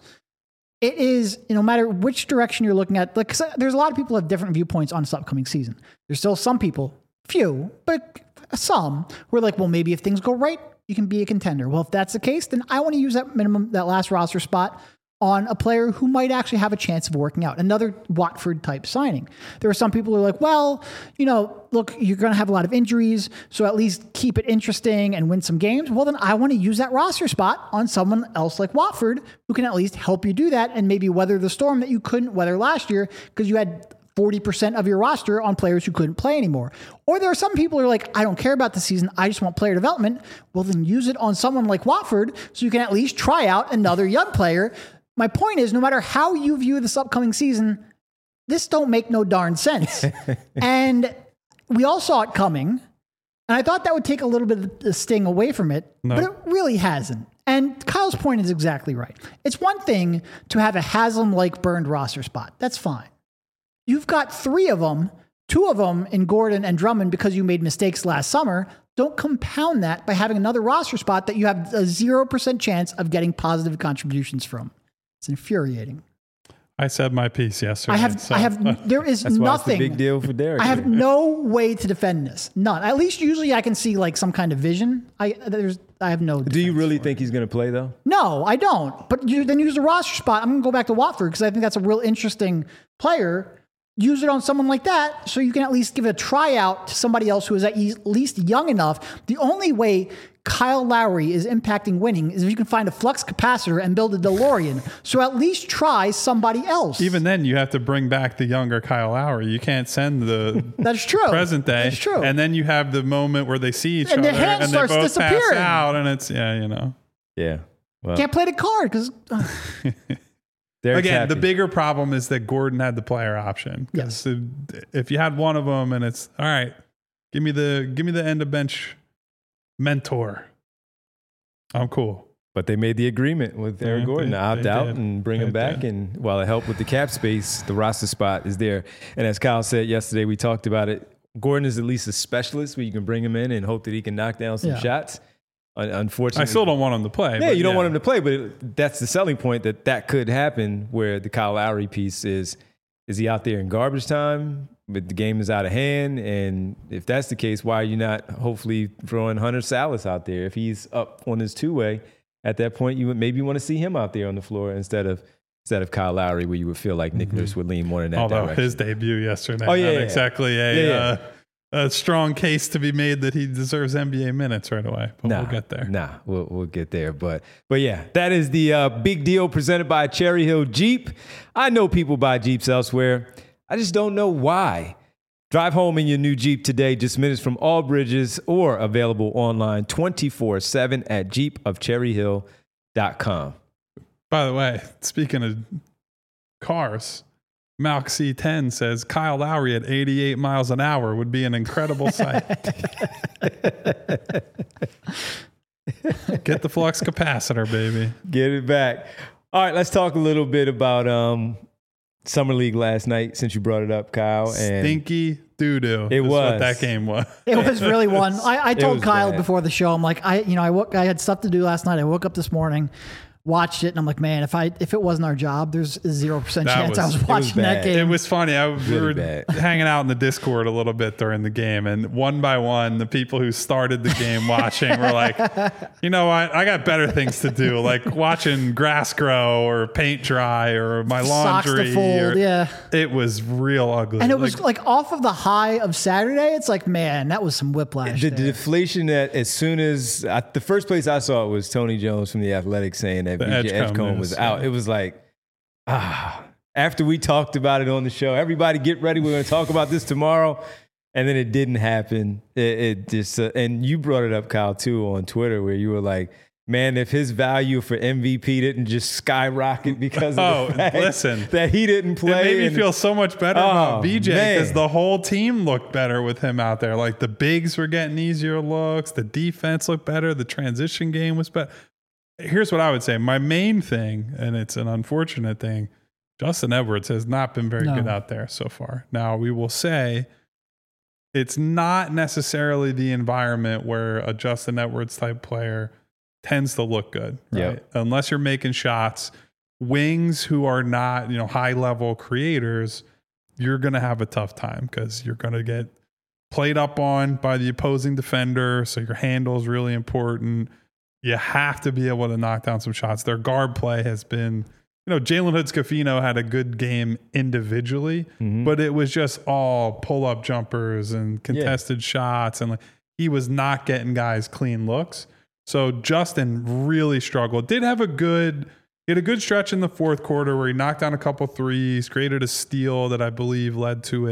It is, no matter which direction you're looking at, like, there's a lot of people who have different viewpoints on this upcoming season. There's still some people, few, but some, who are like, well, maybe if things go right, you can be a contender. Well, if that's the case, then I want to use that last roster spot on a player who might actually have a chance of working out. Another Watford type signing. There are some people who are like, well, look, you're going to have a lot of injuries, so at least keep it interesting and win some games. Well, then I want to use that roster spot on someone else like Watford who can at least help you do that and maybe weather the storm that you couldn't weather last year because you had 40% of your roster on players who couldn't play anymore. Or there are some people who are like, I don't care about the season. I just want player development. Well, then use it on someone like Watford so you can at least try out another young player. My point is, no matter how you view this upcoming season, this don't make no darn sense. And we all saw it coming. And I thought that would take a little bit of the sting away from it, but it really hasn't. And Kyle's point is exactly right. It's one thing to have a Haslam-like burned roster spot. That's fine. You've got 3 of them, 2 of them in Gordon and Drummond because you made mistakes last summer. Don't compound that by having another roster spot that you have a 0% chance of getting positive contributions from. It's infuriating. I said my piece yesterday. There is That's why nothing. it's a big deal for Derek. I have no way to defend this. None. At least usually I can see like some kind of vision. I have no. Do you really think he's going to play though? No, I don't. But then use the roster spot. I'm going to go back to Watford because I think that's a real interesting player. Use it on someone like that so you can at least give a tryout to somebody else who is at least young enough. The only way Kyle Lowry is impacting winning is if you can find a flux capacitor and build a DeLorean. So at least try somebody else. Even then, you have to bring back the younger Kyle Lowry. You can't send the That's true. present day. That's true. And then you have the moment where they see each And other their hand and they starts both disappearing. pass out, and it's Yeah. Well, Can't play the card because Derek's Again, happy. the bigger problem is that Gordon had the player option. Yes. If you had one of them, and it's all right, give me the end of bench mentor. I'm cool. But they made the agreement with Eric Gordon to opt out and bring him back. And while it helped with the cap space, the roster spot is there. And as Kyle said yesterday, we talked about it. Gordon is at least a specialist where you can bring him in and hope that he can knock down some shots. Unfortunately, I still don't want him to play. Yeah, you don't want him to play, but that's the selling point that could happen where the Kyle Lowry piece is he out there in garbage time, but the game is out of hand? And if that's the case, why are you not hopefully throwing Hunter Salas out there? If he's up on his 2-way, at that point, you would maybe want to see him out there on the floor instead of Kyle Lowry, where you would feel like Nick Nurse would lean more in that direction. Although his debut yesterday, exactly a strong case to be made that he deserves NBA minutes right away. But we'll get there. We'll get there. But yeah, that is the big deal presented by Cherry Hill Jeep. I know people buy Jeeps elsewhere. I just don't know why. Drive home in your new Jeep today, just minutes from all bridges, or available online 24/7 at jeepofcherryhill.com. By the way, speaking of cars, Malk C10 says Kyle Lowry at 88 miles an hour would be an incredible sight. Get the flux capacitor, baby. Get it back. All right, let's talk a little bit about Summer League last night, since you brought it up, Kyle. And stinky doo-doo. It was what that game was. it was really one. I told Kyle bad. before the show, I'm like, I had stuff to do last night. I woke up this morning, watched it, and I'm like, man, if it wasn't our job, there's a 0% chance I was watching that game. It was funny. We were bad. hanging out in the Discord a little bit during the game, and one by one, the people who started the game watching were like, you know what? I got better things to do, like watching grass grow or paint dry or my laundry. Socks to fold, yeah. It was real ugly. And it was like off of the high of Saturday. It's like, man, that was some whiplash. The there. deflation that as soon as the first place I saw it was Tony Jones from The Athletic saying that VJ Edgecombe was out. It was like, after we talked about it on the show. Everybody get ready. We're going to talk about this tomorrow. And then it didn't happen. It just, and you brought it up, Kyle, too, on Twitter, where you were like, man, if his value for MVP didn't just skyrocket because of the fact that he didn't play. It made me feel so much better about VJ because the whole team looked better with him out there. Like the bigs were getting easier looks. The defense looked better. The transition game was better. Here's what I would say. My main thing, and it's an unfortunate thing, Justin Edwards has not been very good out there so far. Now, we will say it's not necessarily the environment where a Justin Edwards type player tends to look good, right? Yep. Unless you're making shots. Wings who are not, high level creators, you're going to have a tough time because you're going to get played up on by the opposing defender. So your handle is really important. You have to be able to knock down some shots. Their guard play has been, Jalen Hood-Schifino had a good game individually, but it was just all pull-up jumpers and contested shots. And he was not getting guys clean looks. So Justin really struggled. He had a good stretch in the fourth quarter where he knocked down a couple threes, created a steal that I believe led to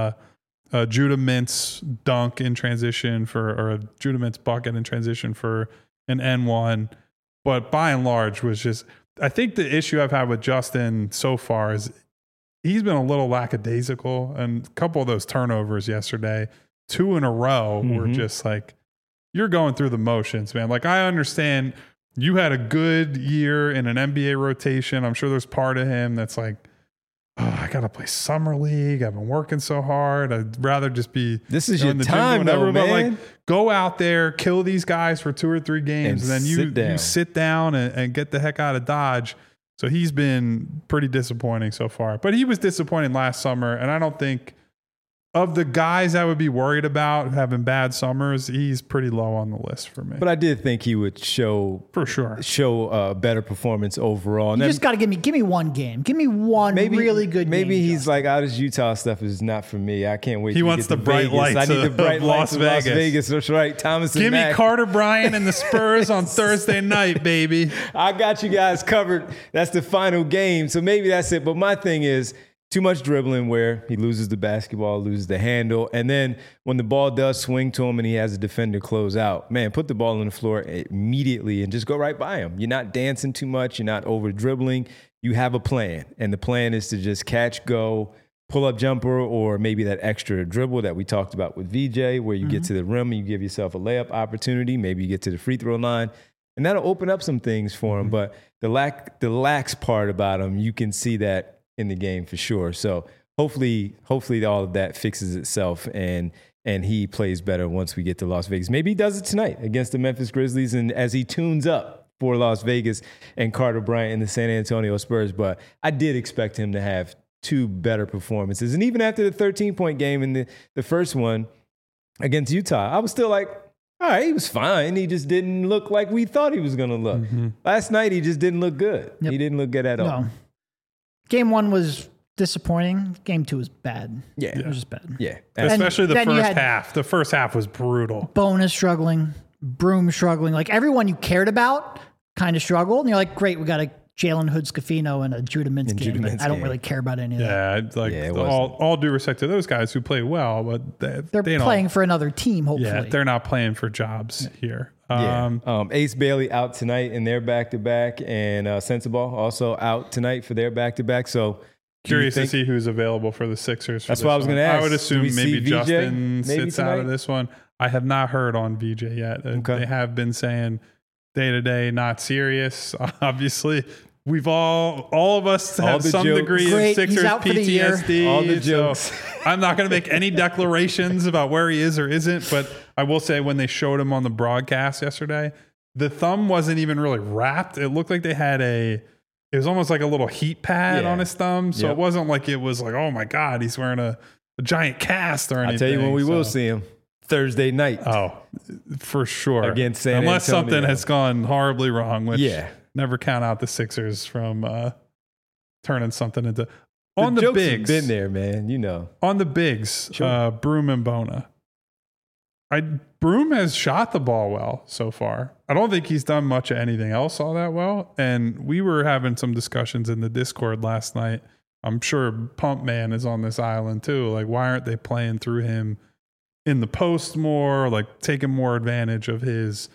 a Judah Mintz dunk in transition or a Judah Mintz bucket in transition for an N1. But by and large was just, I think the issue I've had with Justin so far is he's been a little lackadaisical, and a couple of those turnovers yesterday, 2 in a row were just like, you're going through the motions, man. Like, I understand you had a good year in an NBA rotation. I'm sure there's part of him that's like, oh, I got to play summer league. I've been working so hard. I'd rather just be this is your time, though, man. But like, go out there, kill these guys for 2 or 3 games, and then you sit down and get the heck out of Dodge. So he's been pretty disappointing so far. But he was disappointing last summer, and I don't think of the guys I would be worried about having bad summers, he's pretty low on the list for me. But I did think he would show a better performance overall. You just got to give me one game. Give me one really good game. Maybe he's like, this Utah stuff is not for me. I can't wait. He wants the bright lights. I need the bright lights of Las Vegas. That's right. Thomas and Give Mack. me Carter Bryant and the Spurs on Thursday night, baby. I got you guys covered. That's the final game. So maybe that's it. But my thing is, too much dribbling where he loses the basketball, loses the handle. And then when the ball does swing to him and he has a defender close out, man, put the ball on the floor immediately and just go right by him. You're not dancing too much. You're not over dribbling. You have a plan. And the plan is to just catch, go, pull up jumper, or maybe that extra dribble that we talked about with VJ where you get to the rim and you give yourself a layup opportunity. Maybe you get to the free throw line. And that'll open up some things for him. But the lax part about him, you can see that in the game for sure. So hopefully all of that fixes itself and he plays better once we get to Las Vegas. Maybe he does it tonight against the Memphis Grizzlies and as he tunes up for Las Vegas and Carter Bryant and the San Antonio Spurs. But I did expect him to have 2 better performances. And even after the 13-point game in the first one against Utah, I was still like, all right, he was fine. He just didn't look like we thought he was going to look. Last night, he just didn't look good. Yep. He didn't look good at all. Game 1 was disappointing. Game 2 was bad. Yeah. It was just bad. Yeah. Especially the first half. The first half was brutal. Bonus struggling. Broom struggling. Like everyone you cared about kind of struggled. And you're like, great, we got a Jalen Hood-Schifino and a Judah Mintz game. I don't really care about any of that. Yeah, all due respect to those guys who play well, but they're playing for another team, hopefully. Yeah, they're not playing for jobs here. Ace Bailey out tonight in their back-to-back, and Sensabaugh also out tonight for their back-to-back. So curious to see who's available for the Sixers. That's what I was going to ask. I would assume maybe Justin sits out of this one. I have not heard on VJ yet. Okay. They have been saying day-to-day, not serious. Obviously, we've all of us have some degree of Sixers PTSD. All the jokes. So I'm not going to make any declarations about where he is or isn't, but I will say when they showed him on the broadcast yesterday, the thumb wasn't even really wrapped. It looked like they had it was almost like a little heat pad on his thumb. So it wasn't like it was like, oh my God, he's wearing a giant cast or anything. I'll tell you when we will see him. Thursday night. Oh, for sure. Against San Antonio. Unless something has gone horribly wrong, which never count out the Sixers from turning something into... On the bigs. Been there, man. You know. On the bigs, Broom and Bona. Broom has shot the ball well so far. I don't think he's done much of anything else all that well. And we were having some discussions in the Discord last night I'm sure Pump Man is on this island too. Like, why aren't they playing through him in the post more, like taking more advantage of his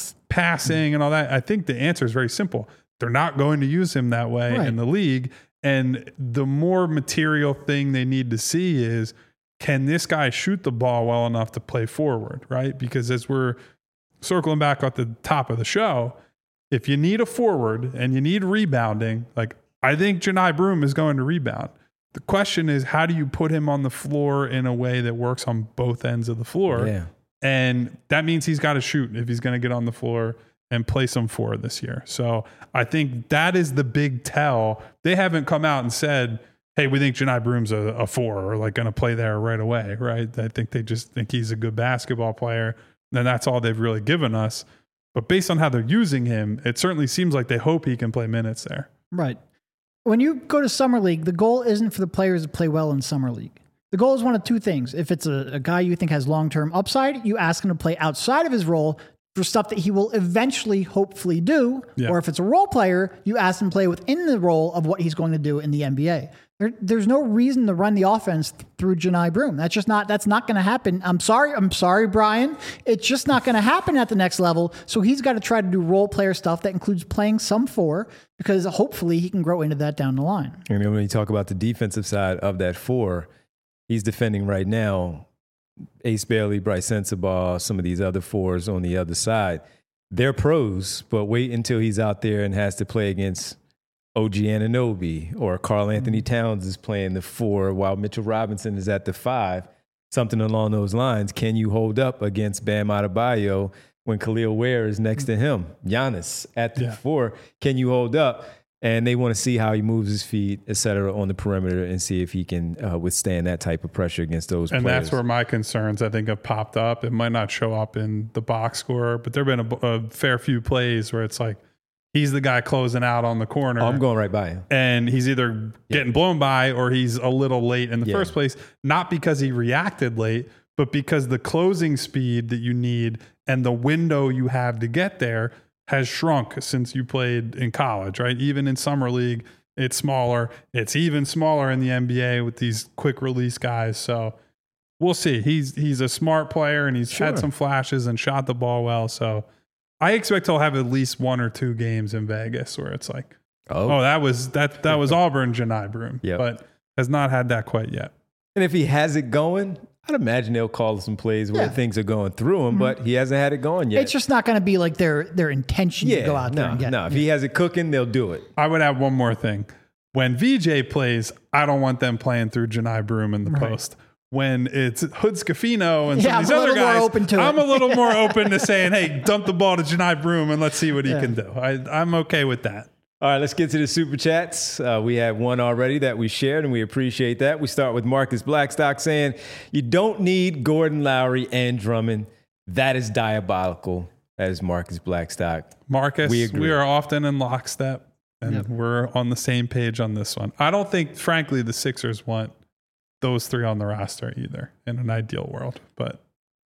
passing and all that? I think the answer is very simple. They're not going to use him that way in the league. And the more material thing they need to see is, can this guy shoot the ball well enough to play forward, right? Because as we're circling back at the top of the show, if you need a forward and you need rebounding, like, I think Johni Broome is going to rebound. The question is, how do you put him on the floor in a way that works on both ends of the floor? Yeah. And that means he's got to shoot if he's going to get on the floor and play some forward this year. So I think that is the big tell. They haven't come out and said, hey, we think Johni Broome's a 4 or like going to play there right away, right? I think they just think he's a good basketball player. And that's all they've really given us. But based on how they're using him, it certainly seems like they hope he can play minutes there. Right. When you go to Summer League, the goal isn't for the players to play well in Summer League. The goal is one of two things. If it's a guy you think has long-term upside, you ask him to play outside of his role for stuff that he will eventually, hopefully do. Yeah. Or if it's a role player, you ask him to play within the role of what he's going to do in the NBA. There's no reason to run the offense through Johni Broome. That's not going to happen. I'm sorry, Brian. It's just not going to happen at the next level. So he's got to try to do role player stuff that includes playing some 4, because hopefully he can grow into that down the line. And when you talk about the defensive side of that 4, he's defending right now Ace Bailey, Bryce Sensabaugh, some of these other 4s on the other side. They're pros, but wait until he's out there and has to play against OG Anunoby, or Karl Anthony Towns is playing the 4 while Mitchell Robinson is at the 5, something along those lines. Can you hold up against Bam Adebayo when Khalil Ware is next to him? Giannis at the 4, can you hold up? And they want to see how he moves his feet, et cetera, on the perimeter and see if he can withstand that type of pressure against those players. And that's where my concerns, I think, have popped up. It might not show up in the box score, but there have been a fair few plays where it's like, he's the guy closing out on the corner. Oh, I'm going right by him. And he's either getting blown by or he's a little late in the first place, not because he reacted late, but because the closing speed that you need and the window you have to get there has shrunk since you played in college, right? Even in Summer League, it's smaller. It's even smaller in the NBA with these quick release guys. So we'll see. He's a smart player, and he's had some flashes and shot the ball well. So I expect he'll have at least 1 or 2 games in Vegas where it's like, that was Auburn Johni Broome, but has not had that quite yet. And if he has it going, I'd imagine they'll call some plays where things are going through him, but he hasn't had it going yet. It's just not going to be like their intention to go out there and get it. No, if he has it cooking, they'll do it. I would add one more thing. When VJ plays, I don't want them playing through Johni Broome in the post. When it's Hood Schifino and some of these other guys, I'm a little more open to saying, hey, dump the ball to Johni Broome and let's see what he can do. I'm okay with that. All right, let's get to the Super Chats. We had one already that we shared, and we appreciate that. We start with Marcus Blackstock saying, you don't need Gordon, Lowry, and Drummond. That is diabolical. That is Marcus Blackstock. Marcus, we are often in lockstep, and we're on the same page on this one. I don't think, frankly, the Sixers want those 3 on the roster either in an ideal world, but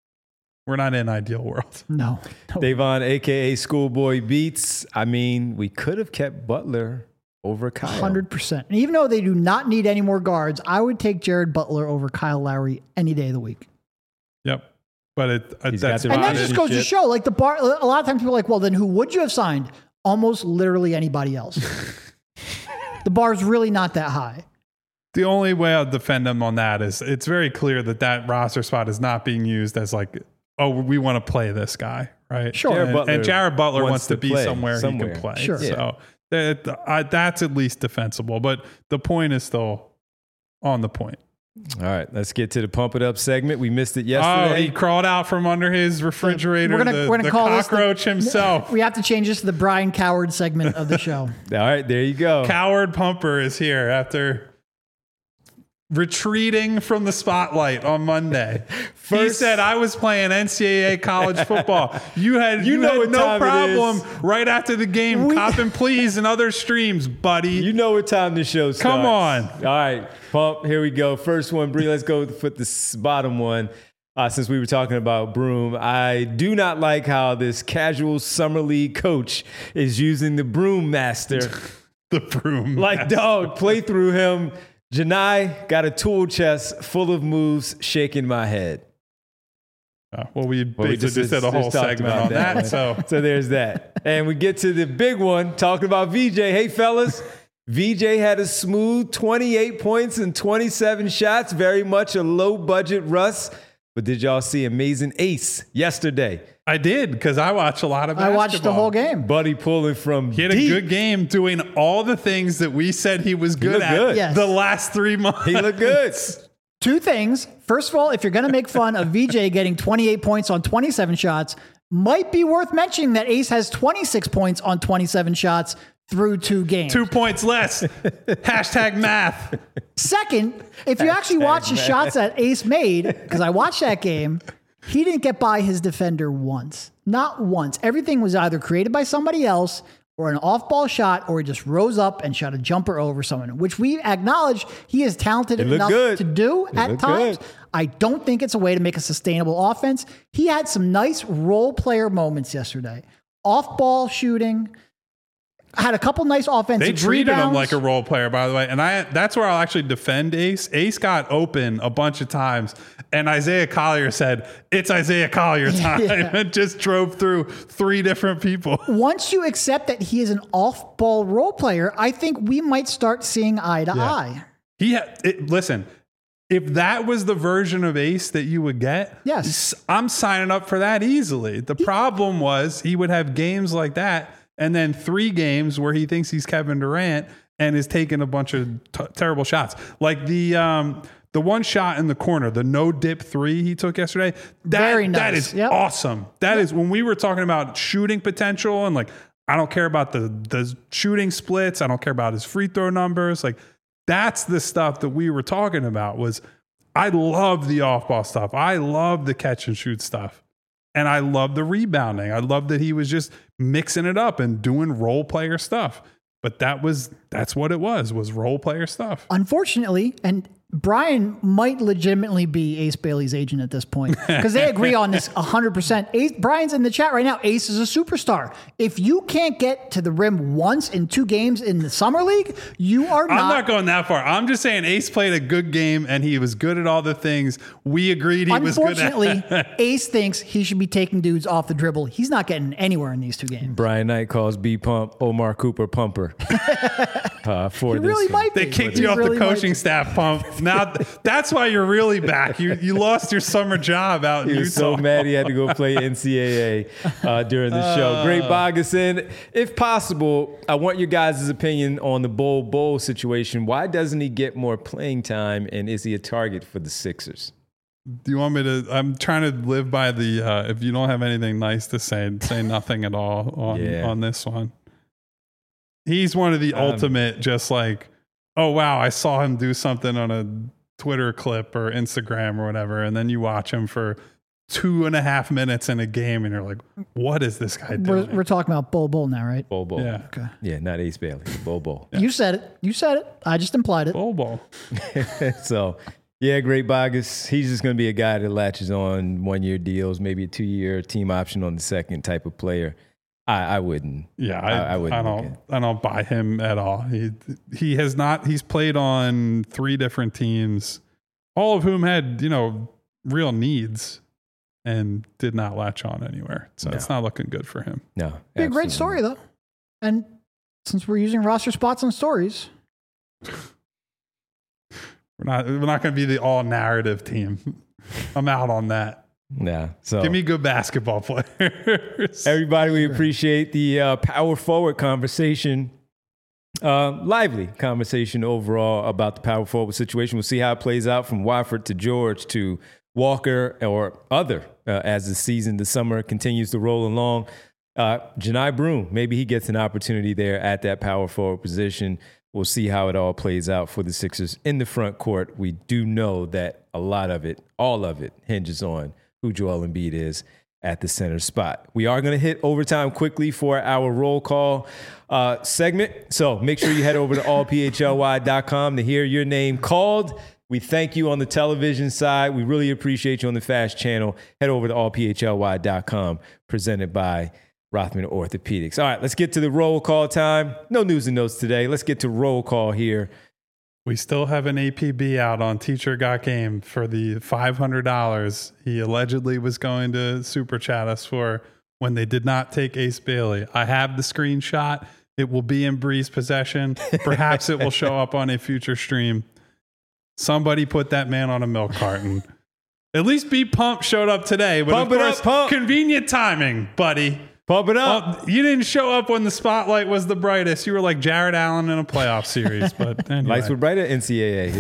we're not in an ideal world. No. Davon, a.k.a. Schoolboy Beats. I mean, we could have kept Butler over Kyle. 100%. And even though they do not need any more guards, I would take Jared Butler over Kyle Lowry any day of the week. Yep. But that just goes to show, like, a lot of times people are like, well, then who would you have signed? Almost literally anybody else. The bar's really not that high. The only way I'll defend them on that is it's very clear that roster spot is not being used as like, oh, we want to play this guy, right? Sure. And Jared Butler wants to be somewhere he can play. Sure. So that's at least defensible. But the point is still on the point. All right, let's get to the Pump It Up segment. We missed it yesterday. Oh, he crawled out from under his refrigerator. We're gonna call cockroach himself. We have to change this to the Brian Coward segment of the show. All right, there you go. Coward Pumper is here after retreating from the spotlight on Monday. He said, I was playing NCAA college football. You had no problem right after the game copping pleas and other streams, buddy. You know what time the show starts. Come on. All right, Pump, here we go. First one, Bree, let's go with the bottom one. Since we were talking about Broome, I do not like how this casual summer league coach is using the Broome Master. The Broome Like, Master. Dog, play through him. Janai got a tool chest full of moves shaking my head. Well, we basically just did a whole segment on that. So there's that. And we get to the big one, talking about VJ. Hey, fellas, VJ had a smooth 28 points and 27 shots, very much a low-budget Russ. But did y'all see Amazing Ace yesterday? I did, because I watch a lot of basketball. I watched the whole game. Buddy pulling from He had deep. a good game doing all the things that we said he was good at good. Yes. the last 3 months. He looked good. Two things. First of all, if you're going to make fun of VJ getting 28 points on 27 shots, might be worth mentioning that Ace has 26 points on 27 shots through 2 games. 2 points less. Hashtag math. Second, if you actually watch the shots that Ace made, because I watched that game, he didn't get by his defender once. Not once. Everything was either created by somebody else or an off-ball shot, or he just rose up and shot a jumper over someone, which we acknowledge he is talented enough to do at times. Good. I don't think it's a way to make a sustainable offense. He had some nice role player moments yesterday. Off-ball shooting. Had a couple nice offensive They treated rebounds. him like a role player, by the way. And that's where I'll actually defend Ace. Ace got open a bunch of times, and Isaiah Collier said, "It's Isaiah Collier time," and just drove through 3 different people. Once you accept that he is an off-ball role player, I think we might start seeing eye to eye. Listen, if that was the version of Ace that you would get, Yes. I'm signing up for that easily. The problem was he would have games like that, and then 3 games where he thinks he's Kevin Durant and is taking a bunch of terrible shots. Like the one shot in the corner, the no dip 3 he took yesterday. Very nice. That is Yep. awesome. That is when we were talking about shooting potential, and like, I don't care about the shooting splits. I don't care about his free throw numbers. Like, that's the stuff that we were talking about. Was I love the off ball stuff. I love the catch and shoot stuff. And I love the rebounding. I love that he was just mixing it up and doing role player stuff. But that's what it was role player stuff. Unfortunately, and Brian might legitimately be Ace Bailey's agent at this point, because they agree on this 100%. Ace, Brian's in the chat right now. Ace is a superstar. If you can't get to the rim once in 2 games in the summer league, you are not. I'm not going that far. I'm just saying Ace played a good game and he was good at all the things we agreed he was good at. Unfortunately, Ace thinks he should be taking dudes off the dribble. He's not getting anywhere in these 2 games. Brian Knight calls B Pump Omar Cooper Pumper. For He really might be. They kicked He you off really the might coaching be. staff, Pump. Now that's why you're really back. You lost your summer job out in He Utah. was so mad he had to go play NCAA during the show. Great Bogason. If possible, I want your guys' opinion on the Bowl situation. Why doesn't he get more playing time, and is he a target for the Sixers? Do you want me to? I'm trying to live by the. If you don't have anything nice to say nothing at all on this one. He's one of the ultimate, just like, oh wow, I saw him do something on a Twitter clip or Instagram or whatever, and then you watch him for 2.5 minutes in a game, and you're like, what is this guy doing? We're talking about Bull now, right? Bull. Yeah. Okay. Yeah, not Ace Bailey. Bull. You said it. You said it. I just implied it. Ball. So, yeah, great Bogus. He's just going to be a guy that latches on 1-year deals, maybe a 2-year team option on the second type of player. I wouldn't. Yeah, I wouldn't. I don't buy him at all. He has not. He's played on 3 different teams, all of whom had real needs, and did not latch on anywhere. So it's not looking good for him. No, Be a great story though. And since we're using roster spots on stories, We're not going to be the all narrative team. I'm out on that. Yeah. So Give me good basketball players. everybody, we appreciate the power forward conversation. Lively conversation overall about the power forward situation. We'll see how it plays out from Wofford to George to Walker or other as the summer continues to roll along. Janai Broome, maybe he gets an opportunity there at that power forward position. We'll see how it all plays out for the Sixers in the front court. We do know that a lot of it, all of it, hinges on who Joel Embiid is at the center spot. We are going to hit overtime quickly for our roll call segment. So make sure you head over to allphly.com to hear your name called. We thank you on the television side. We really appreciate you on the FAST channel. Head over to allphly.com, presented by Rothman Orthopedics. All right, let's get to the roll call time. No news and notes today. Let's get to roll call here. We still have an APB out on Teacher Got Game for the $500 he allegedly was going to super chat us for when they did not take Ace Bailey. I have the screenshot. It will be in Bree's possession. Perhaps it will show up on a future stream. Somebody put that man on a milk carton. At least B Pump showed up today. But Pump of it course, up, Pump. Convenient timing, buddy. Pump it up. Well, you didn't show up when the spotlight was the brightest. You were like Jared Allen in a playoff series. But anyway. Lights were brighter. NCAA.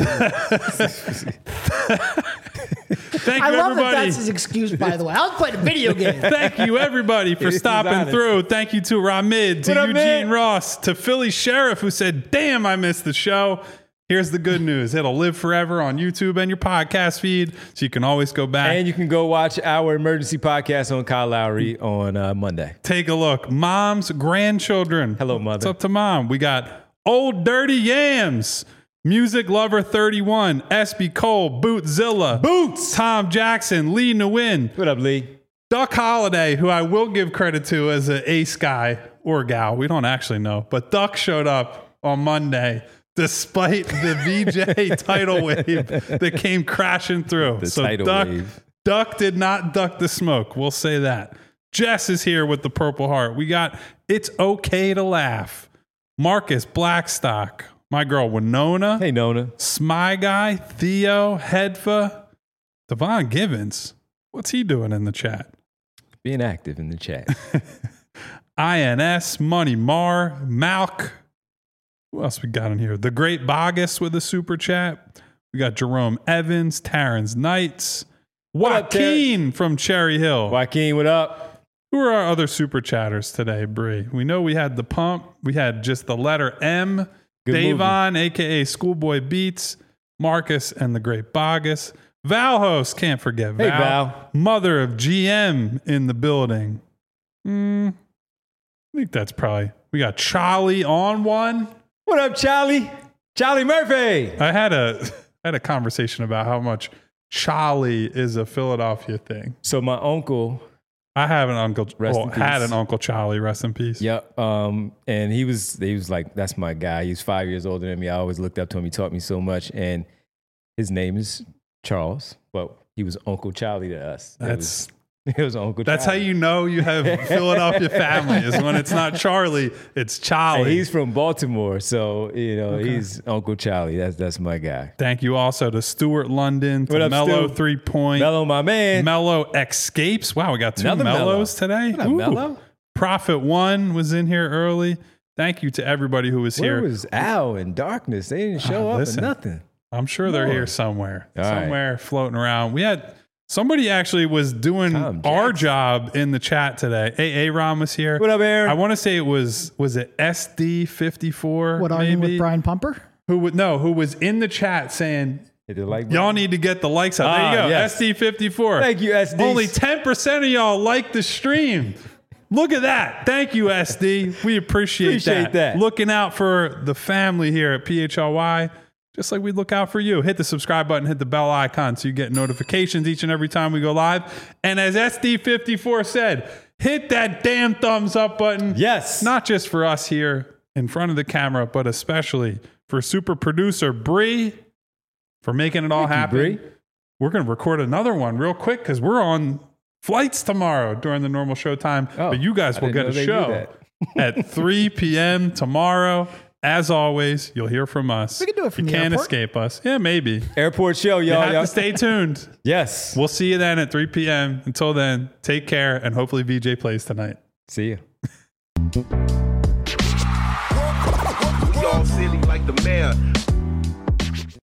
Thank you, I love everybody. that that's his excuse, by the way. I was playing a video game. Thank you, everybody, for He's stopping honest. through. Thank you to Ramid, to What up, Eugene man? Ross, to Philly Sheriff, who said, damn, I missed the show. Here's the good news. It'll live forever on YouTube and your podcast feed, so you can always go back. And you can go watch our emergency podcast on Kyle Lowry on Monday. Take a look. Mom's grandchildren. Hello, mother. What's up to mom? We got Old Dirty Yams, Music Lover 31, SB Cole, Bootzilla, Boots. Tom Jackson, Lee Nguyen, What up, Lee? Duck Holiday, who I will give credit to as an ace guy or gal. We don't actually know. But Duck showed up on Monday despite the VJ tidal wave that came crashing through. The tidal wave. Duck did not duck the smoke. We'll say that. Jess is here with the Purple Heart. We got It's Okay to Laugh. Marcus Blackstock. My girl Winona. Hey, Nona. Smy Guy. Theo. Hedfa. Devon Givens. What's he doing in the chat? Being active in the chat. INS. Money Mar. Malk. Who else we got in here? The Great Bogus with a super chat. We got Jerome Evans, Terrence Knights, What up, Joaquin from Cherry Hill. Joaquin, what up? Who are our other super chatters today, Bree? We know we had the Pump. We had just the letter M. Good Davon, a.k.a. Schoolboy Beats. Marcus and the Great Bogus. Val host, can't forget Val. Hey, Val. Mother of GM in the building. I think that's probably... We got Charlie on one. What up, Charlie? Charlie Murphy. I had a conversation about how much Charlie is a Philadelphia thing. So my uncle, I have an uncle, Rest in had peace. an Uncle Charlie, rest in peace. yep, and he was like, that's my guy. He's 5 years older than me. I always looked up to him. He taught me so much, and his name is Charles, but he was Uncle Charlie to us. It was Uncle That's how Charlie. you know you have Philadelphia family is when it's not Charlie, it's And Charlie. he's from Baltimore, so he's Uncle Charlie. That's my guy. Thank you also to Stuart London, What to up, Mellow Stu? 3 Point, Mello, my man. Mellow Escapes. Wow, we got two Another Mello. Mellows today. What up, Ooh. Mello? Prophet One was in here early. Thank you to everybody who was Where here. was Al and Darkness? They didn't show up listen. or nothing. I'm sure they're Lord. here somewhere. All right. Somewhere floating around. We had somebody actually was doing Tom our Jackson. job in the chat today. Aaron was here. What up, Aaron? I want to say it was it SD54 What, arguing maybe? with Brian Pumper? Who was in the chat saying Hit the like y'all button. need to get the likes up. There you Ah, go. yes. SD54. Thank you, SD. Only 10% of y'all like the stream. Look at that. Thank you, SD. We appreciate that. Looking out for the family here at PHLY, just like we look out for you. Hit the subscribe button, hit the bell icon so you get notifications each and every time we go live. And as SD54 said, hit that damn thumbs up button. Yes. Not just for us here in front of the camera, but especially for super producer Bree for making it all Thank you, happen. Bree. We're going to record another one real quick because we're on flights tomorrow during the normal show time. Oh, but you guys I will didn't get know a they do show that. at 3 p.m. tomorrow. As always, you'll hear from us. We can do it from you the can't airport. escape us. Yeah, maybe. Airport show, You y'all. have to stay tuned. Yes. We'll see you then at 3 p.m. Until then, take care, and hopefully VJ plays tonight. See you. We all silly like the mayor.